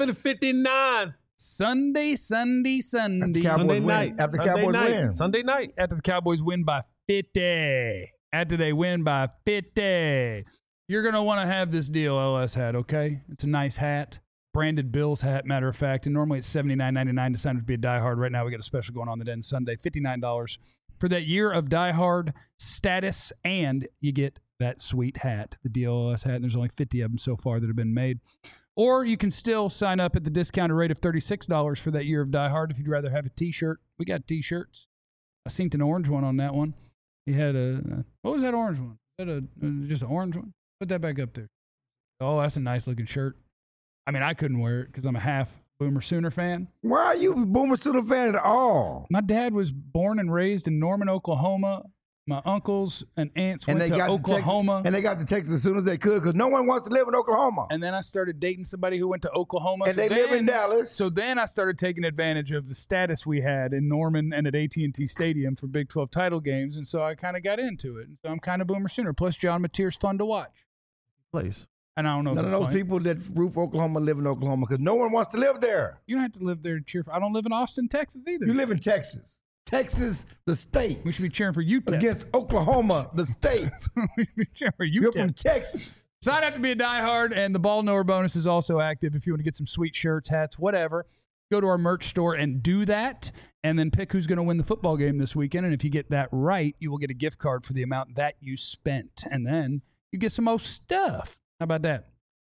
11:59. Sunday. After Cowboys win. After Cowboys win. Sunday night. After the Cowboys win by 50. After they win by 50. You're going to want to have this deal LS hat, okay? It's a nice hat. Branded Bills hat, matter of fact. And normally it's $79.99 to sign up to be a diehard. Right now we got a special going on that ends Sunday. $59 for that year of diehard status. And you get that sweet hat, the DLS hat. And there's only 50 of them so far that have been made. Or you can still sign up at the discounted rate of $36 for that year of Die Hard if you'd rather have a T-shirt. We got T-shirts. I seen an orange one on that one. He had what was that orange one? Was that just an orange one? Put that back up there. Oh, that's a nice looking shirt. I mean, I couldn't wear it because I'm a half Boomer Sooner fan. Why are you a Boomer Sooner fan at all? My dad was born and raised in Norman, Oklahoma. My uncles and aunts went to Oklahoma. And they got to Texas as soon as they could because no one wants to live in Oklahoma. And then I started dating somebody who went to Oklahoma. And they live in Dallas. So then I started taking advantage of the status we had in Norman and at AT&T Stadium for Big 12 title games. And so I kind of got into it. And so I'm kind of Boomer Sooner. Plus, John Mateer's fun to watch. Place. And I don't know. None of those people that roof Oklahoma live in Oklahoma because no one wants to live there. You don't have to live there to cheer for. I don't live in Austin, Texas either. You live in Texas. Texas, the state. We should be cheering for UTEP. Against Oklahoma, the state. We should be cheering for UTEP. You're from Texas. Sign up to be a diehard, and the Ball Knower bonus is also active if you want to get some sweet shirts, hats, whatever. Go to our merch store and do that, and then pick who's going to win the football game this weekend. And if you get that right, you will get a gift card for the amount that you spent. And then you get some more stuff. How about that?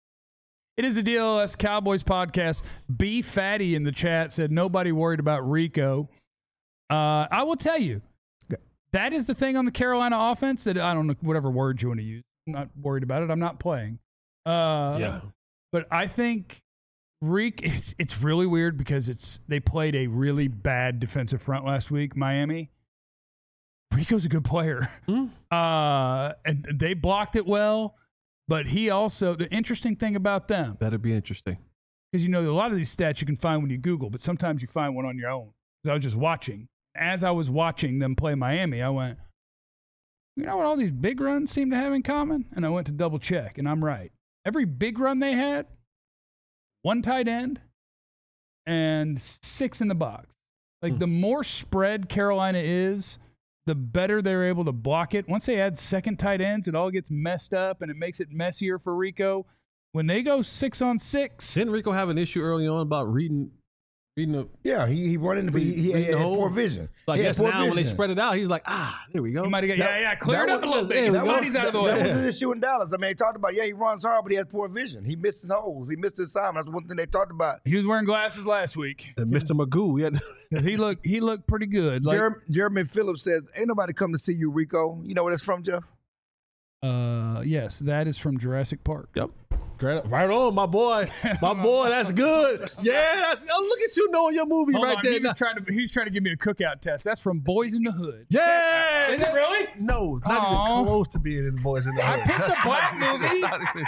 It is a DLS Cowboys podcast. B Fatty in the chat said nobody worried about Rico. I will tell you, that is the thing on the Carolina offense that I don't know, whatever word you want to use. I'm not worried about it. I'm not playing. But I think it's really weird because they played a really bad defensive front last week, Miami. Rico's a good player. And they blocked it well, but he also, the interesting thing about them. Better be interesting. Because a lot of these stats you can find when you Google, but sometimes you find one on your own. Because I was just watching. As I was watching them play Miami, I went, you know what all these big runs seem to have in common? And I went to double check, and I'm right. Every big run they had, 1 tight end and 6 in the box. Like the more spread Carolina is, the better they're able to block it. Once they add second tight ends, it all gets messed up, and it makes it messier for Rico. When they go 6-on-6. Didn't Rico have an issue early on about reading the he brought in he had poor vision. So I guess now when they spread it out, he's like, there we go. He might have got clear it up a little bit. The body's out of the way. That was his issue in Dallas. I mean, they talked about he runs hard, but he has poor vision. He missed his holes. He missed his assignment. That's one thing they talked about. He was wearing glasses last week. And Mr. Magoo, because he looked pretty good. Like, Jeremy Phillips says, "Ain't nobody come to see you, Rico." You know where that's from, Jeff? Yes, that is from Jurassic Park. Yep. Right on, my boy. My boy, that's good. Yeah, look at you knowing your movie right there. He was trying to give me a cookout test. That's from Boys in the Hood. Yeah. Is it really? No, it's not even close to being in Boys in the Hood. I picked a black movie.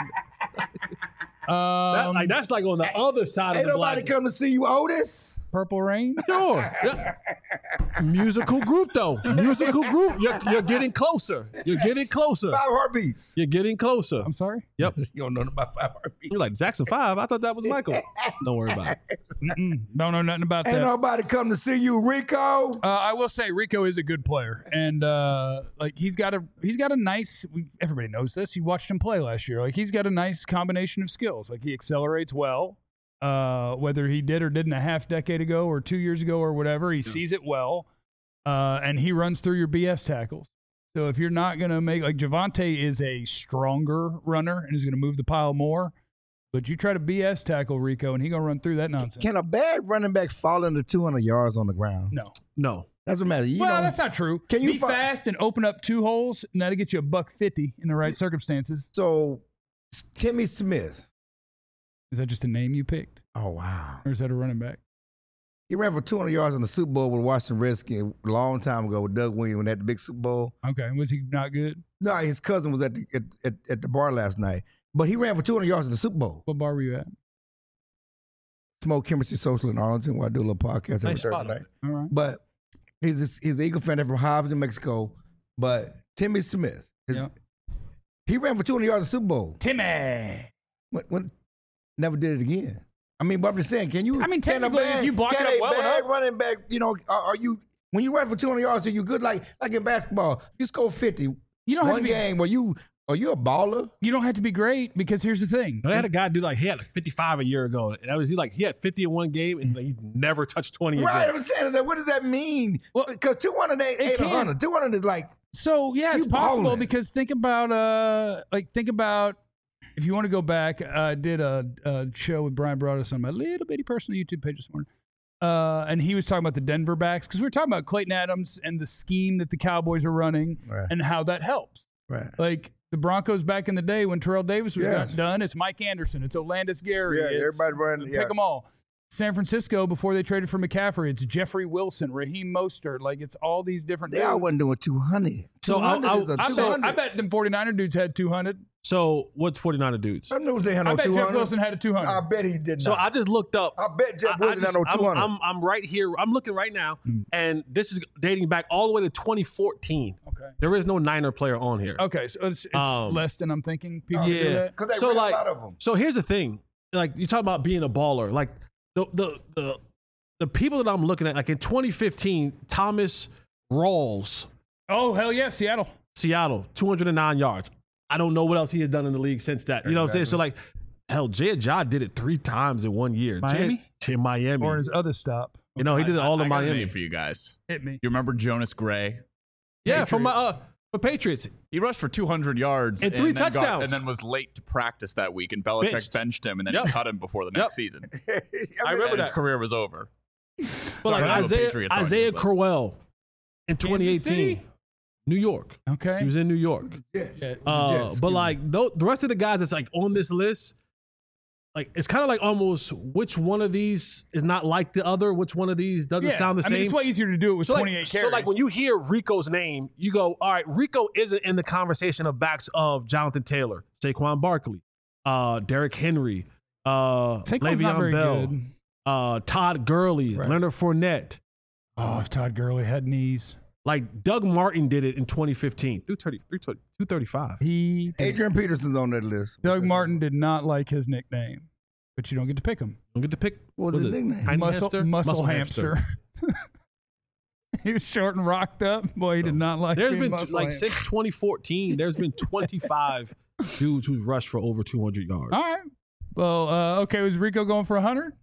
That's like on the other side of the block. Ain't nobody come to see you, Otis? Purple Rain? Sure. Musical group, though. Musical group. You're getting closer. You're getting closer. 5 heartbeats. You're getting closer. I'm sorry? Yep. You don't know about 5 heartbeats. You're like, Jackson 5? I thought that was Michael. Don't worry about it. Don't know nothing about Ain't that. nobody come to see you, Rico. I will say Rico is a good player, and like he's got a nice. Everybody knows this. You watched him play last year. Like he's got a nice combination of skills. Like he accelerates well. Whether he did or didn't a half decade ago or 2 years ago or whatever, he sees it well, and he runs through your BS tackles. So if you're not going to make, like Javonte is a stronger runner and is going to move the pile more, but you try to BS tackle Rico and he going to run through that nonsense. Can a bad running back fall into 200 yards on the ground? No. That's what matters. That's not true. Can you be fast and open up 2 holes, and that'll get you $150 in the right circumstances. So, Timmy Smith. Is that just a name you picked? Oh, wow. Or is that a running back? He ran for 200 yards in the Super Bowl with Washington Redskins a long time ago with Doug Williams when they had the big Super Bowl. Okay. Was he not good? No, his cousin was at the bar last night. But he ran for 200 yards in the Super Bowl. What bar were you at? Smoke Chemistry Social in Arlington, where I do a little podcast every Nice Thursday spot. night. All right. But he's an Eagle fan from Hobbs, New Mexico. But Timmy Smith, he ran for 200 yards in the Super Bowl. Timmy. When never did it again. I mean, but I'm just saying, can you? I mean, technically, if you block it up well enough. Running back, are you, when you run for 200 yards, are you good? Like in basketball, you score 50. You don't have to be, game, are you a baller? You don't have to be great because here's the thing. They had a guy do he had 55 a year ago. And that was he had 50 in one game and he never touched 20 again. Right, I'm saying that. What does that mean? Well, because 200 ain't 100. 200 is like. So yeah, it's possible balling. because think about if you want to go back, I did a show with Brian Broaddus on my little bitty personal YouTube page this morning. And he was talking about the Denver backs because we were talking about Clayton Adams and the scheme that the Cowboys are running and how that helps. Right. Like the Broncos back in the day when Terrell Davis was not done, it's Mike Anderson, it's Olandis Gary. Yeah, everybody running. Pick them all. San Francisco, before they traded for McCaffrey, it's Jeffrey Wilson, Raheem Mostert. Like, it's all these different dudes. They all wasn't doing 200. So I bet them 49er dudes had 200. So what's 49er dudes? I knew they had I no bet 200. Jeff Wilson had a 200. I bet he did not. So I just looked up. I bet Jeff Wilson had no 200. I'm right here. I'm looking right now, and this is dating back all the way to 2014. Okay. There is no Niner player on here. Okay, so it's less than I'm thinking. People do Yeah. that. Because they ran a lot of them. So here's the thing. Like, you talk about being a baller. Like, the people that I'm looking at, like in 2015, Thomas Rawls. Oh, hell yeah, Seattle. 209 yards. I don't know what else he has done in the league since that. You know what I'm saying? So, like, hell, Jay Ajay did it 3 times in 1 year. Miami? In Miami. Or his other stop. You know, he did it all in I got a Miami. name for you guys. Hit me. You remember Jonas Gray? Yeah, from for Patriots. He rushed for 200 yards And 3 then touchdowns. and then was late to practice that week, and Belichick benched him, and then he cut him before the next season. I remember His that. career was over. But like Isaiah Crowell in 2018, New York. Okay. He was in New York. But like the rest of the guys that's like on this list, like it's kind of like almost which one of these is not like the other, which one of these doesn't sound the same. I mean, it's way easier to do it with 28 carries. So like when you hear Rico's name, you go, all right, Rico isn't in the conversation of backs of Jonathan Taylor, Saquon Barkley, Derrick Henry, Le'Veon Bell, Todd Gurley, Leonard Fournette. Oh, if Todd Gurley had knees. Like Doug Martin did it in 2015, 235. Adrian Peterson's on that list. Doug Martin did not like his nickname, but you don't get to pick him. Don't get to pick. What was his nickname? Tiny Muscle hamster? hamster. He was short and rocked up. Boy, he did not like. There's been muscle like hamster. since 2014, there's been 25 dudes who've rushed for over 200 yards. All right. Well, okay. Was Rico going for 100?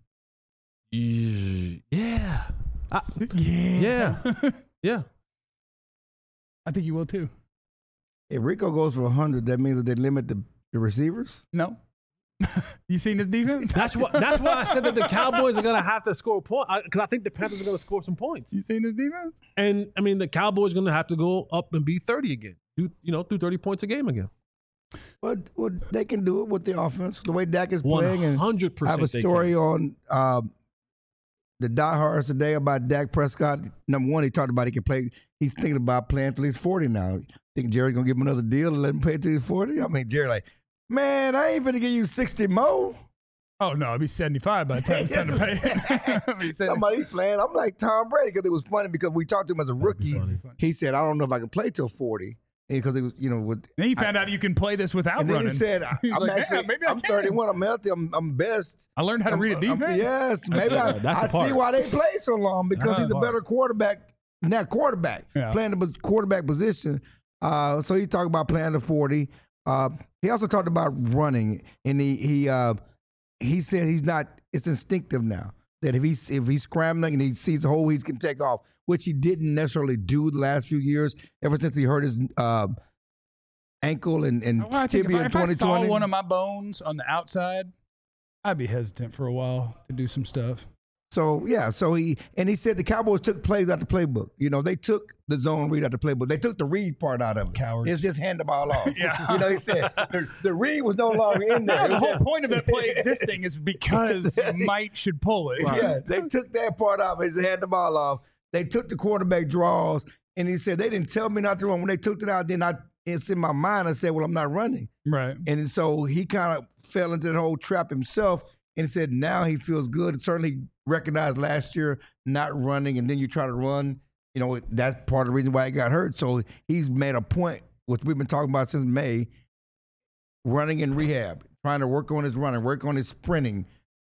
Yeah. Yeah. Yeah. I think you will too. If Rico goes for 100, that means that they limit the receivers? No. You seen his defense? That's why I said that the Cowboys are gonna have to score a point, because I think the Panthers are gonna score some points. You seen his defense? And I mean, the Cowboys are gonna have to go up and be 30 again. Do 30 points a game again. But they can do it with the offense, the way Dak is playing. 100%. I have a story on the diehards today about Dak Prescott. Number one, he talked about he can play. He's thinking about playing till he's 40 now. Think Jerry's gonna give him another deal and let him play till he's 40? I mean, Jerry like, man, I ain't finna give you 60 more. Oh, no, it'd be 75 by the time it's time to pay. Somebody's playing. I'm like Tom Brady because it was funny because we talked to him as a rookie. He said, I don't know if I can play till 40. Because it was, then you found out you can play this without and then running. He said, I'm 31. I'm healthy. I'm best. I learned how to read a defense. Yes, maybe I see why they play so long because he's a better quarterback. Not quarterback, playing the quarterback position. So he talked about playing the 40. He also talked about running, and he said he's not. It's instinctive now that if he's scrambling and he sees the hole, he can take off, which he didn't necessarily do the last few years. Ever since he hurt his ankle and tibia in 2020. If I saw one of my bones on the outside, I'd be hesitant for a while to do some stuff. So he said the Cowboys took plays out the playbook. They took the zone read out the playbook. They took the read part out of it. Cowards. It's just hand the ball off. He said the read was no longer in there. The whole point of that play existing is because Mike should pull it. Right. Yeah, they took that part off. He said hand the ball off. They took the quarterback draws, and he said they didn't tell me not to run. When they took it out, then it's in my mind. I said, well, I'm not running. Right. And so he kind of fell into the whole trap himself. And he said now he feels good. It certainly recognized last year not running, and then you try to run. That's part of the reason why he got hurt. So he's made a point, which we've been talking about since May, running in rehab, trying to work on his running, work on his sprinting,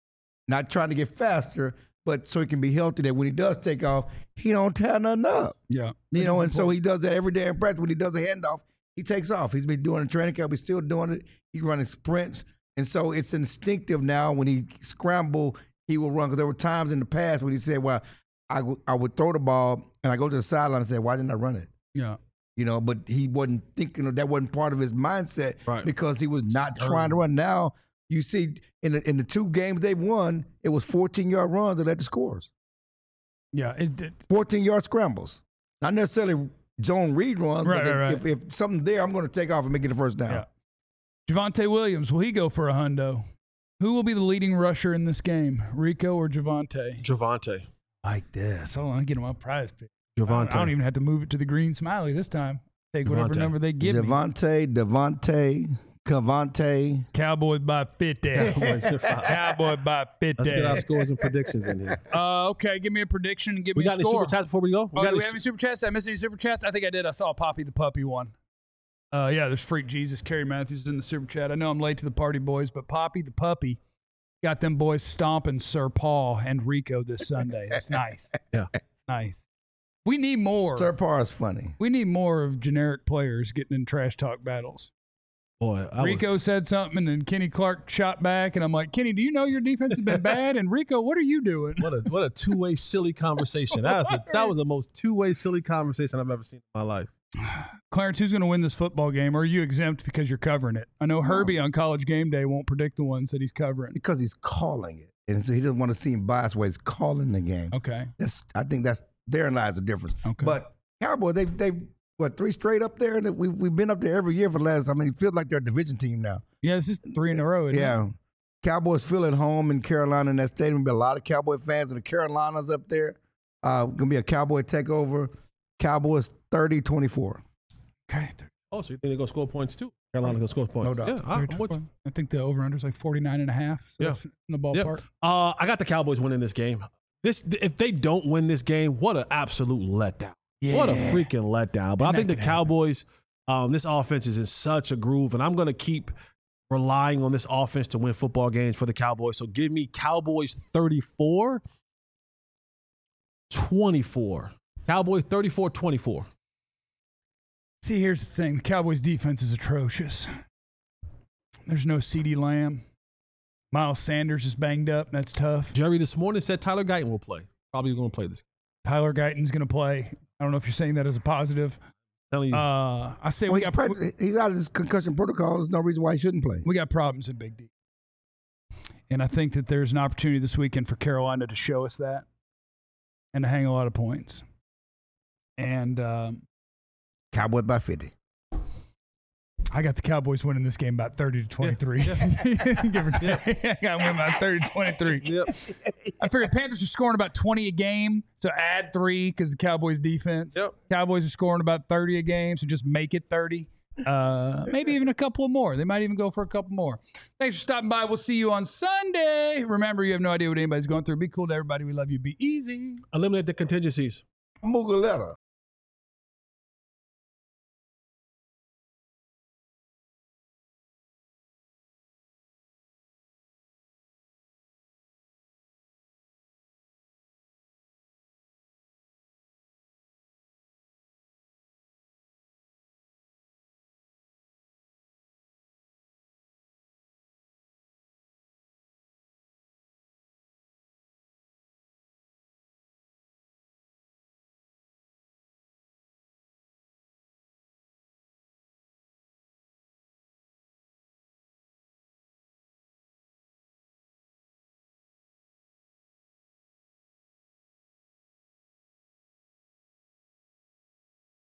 not trying to get faster, but so he can be healthy that when he does take off, he don't tear nothing up. Yeah. And so he does that every day in practice. When he does a handoff, he takes off. He's been doing it in training camp. He's still doing it. He's running sprints. And so it's instinctive now. When he scramble, he will run. Because there were times in the past when he said, well, I would throw the ball and I go to the sideline and say, why didn't I run it? Yeah. But he wasn't thinking that wasn't part of his mindset because he was not trying to run. Now you see in the two games they've won, it was 14-yard runs that led to scores. Yeah. 14-yard scrambles. Not necessarily zone read runs, right, but right. If something's there, I'm going to take off and make it the first down. Yeah. Javonte Williams, will he go for a hundo? Who will be the leading rusher in this game, Rico or Javonte? Javonte. Like this. Hold on, get him a prize pick. Javonte. I don't even have to move it to the green smiley this time. Take whatever number they give me. Devontae, Cavante. Cowboys by 50. Cowboys by 50. Let's get our scores and predictions in here. Okay, give me a prediction and give me a score. We got any super chats before we go? Do we have any super chats? Did I miss any super chats? I think I did. I saw Poppy the Puppy one. There's Freak Jesus, Kerry Matthews in the super chat. I know I'm late to the party, boys, but Poppy the Puppy got them boys stomping Sir Paul and Rico this Sunday. That's nice. Yeah. Nice. We need more. Sir Paul is funny. We need more of generic players getting in trash talk battles. Boy, Rico said something, and then Kenny Clark shot back, and I'm like, Kenny, do you know your defense has been bad? And Rico, what are you doing? What a two-way silly conversation. That was the most two-way silly conversation I've ever seen in my life. Clarence, who's going to win this football game? Or are you exempt because you're covering it? I know Herbie on College Game Day won't predict the ones that he's covering. Because he's calling it. And so he doesn't want to seem biased where he's calling the game. Okay. I think therein lies the difference. Okay. But Cowboys, they three straight up there? We've been up there every year for the last, it feels like they're a division team now. Yeah, this is 3 in a row, isn't it? Cowboys feel at home in Carolina in that stadium. There'll be a lot of Cowboy fans in the Carolinas up there. Going to be a Cowboy takeover. Cowboys 30-24. Okay. Oh, so you think they're going to score points too? Carolina's going to score points. No doubt. Yeah, I think the over-under is like 49.5. So that's in the ballpark. I got the Cowboys winning this game. If they don't win this game, what an absolute letdown. Yeah. What a freaking letdown. But I think the Cowboys, this offense is in such a groove, and I'm going to keep relying on this offense to win football games for the Cowboys. So give me Cowboys 34-24. Cowboys 34-24. See, here's the thing. The Cowboys' defense is atrocious. There's no CeeDee Lamb. Miles Sanders is banged up. That's tough. Jerry this morning said Tyler Guyton will play. Probably going to play this game. Tyler Guyton's going to play. I don't know if you're saying that as a positive. Telling you. I say he's out of his concussion protocol. There's no reason why he shouldn't play. We got problems in Big D. And I think that there's an opportunity this weekend for Carolina to show us that and to hang a lot of points. And Cowboys by 50. I got the Cowboys winning this game about 30-23. Yeah. Give or take. I got to win by 30-23. Yep. I figured Panthers are scoring about 20 a game, so add 3 because the Cowboys defense. Yep. Cowboys are scoring about 30 a game, so just make it 30. Maybe even a couple more. They might even go for a couple more. Thanks for stopping by. We'll see you on Sunday. Remember, you have no idea what anybody's going through. Be cool to everybody. We love you. Be easy. Eliminate the contingencies. Mugaletta.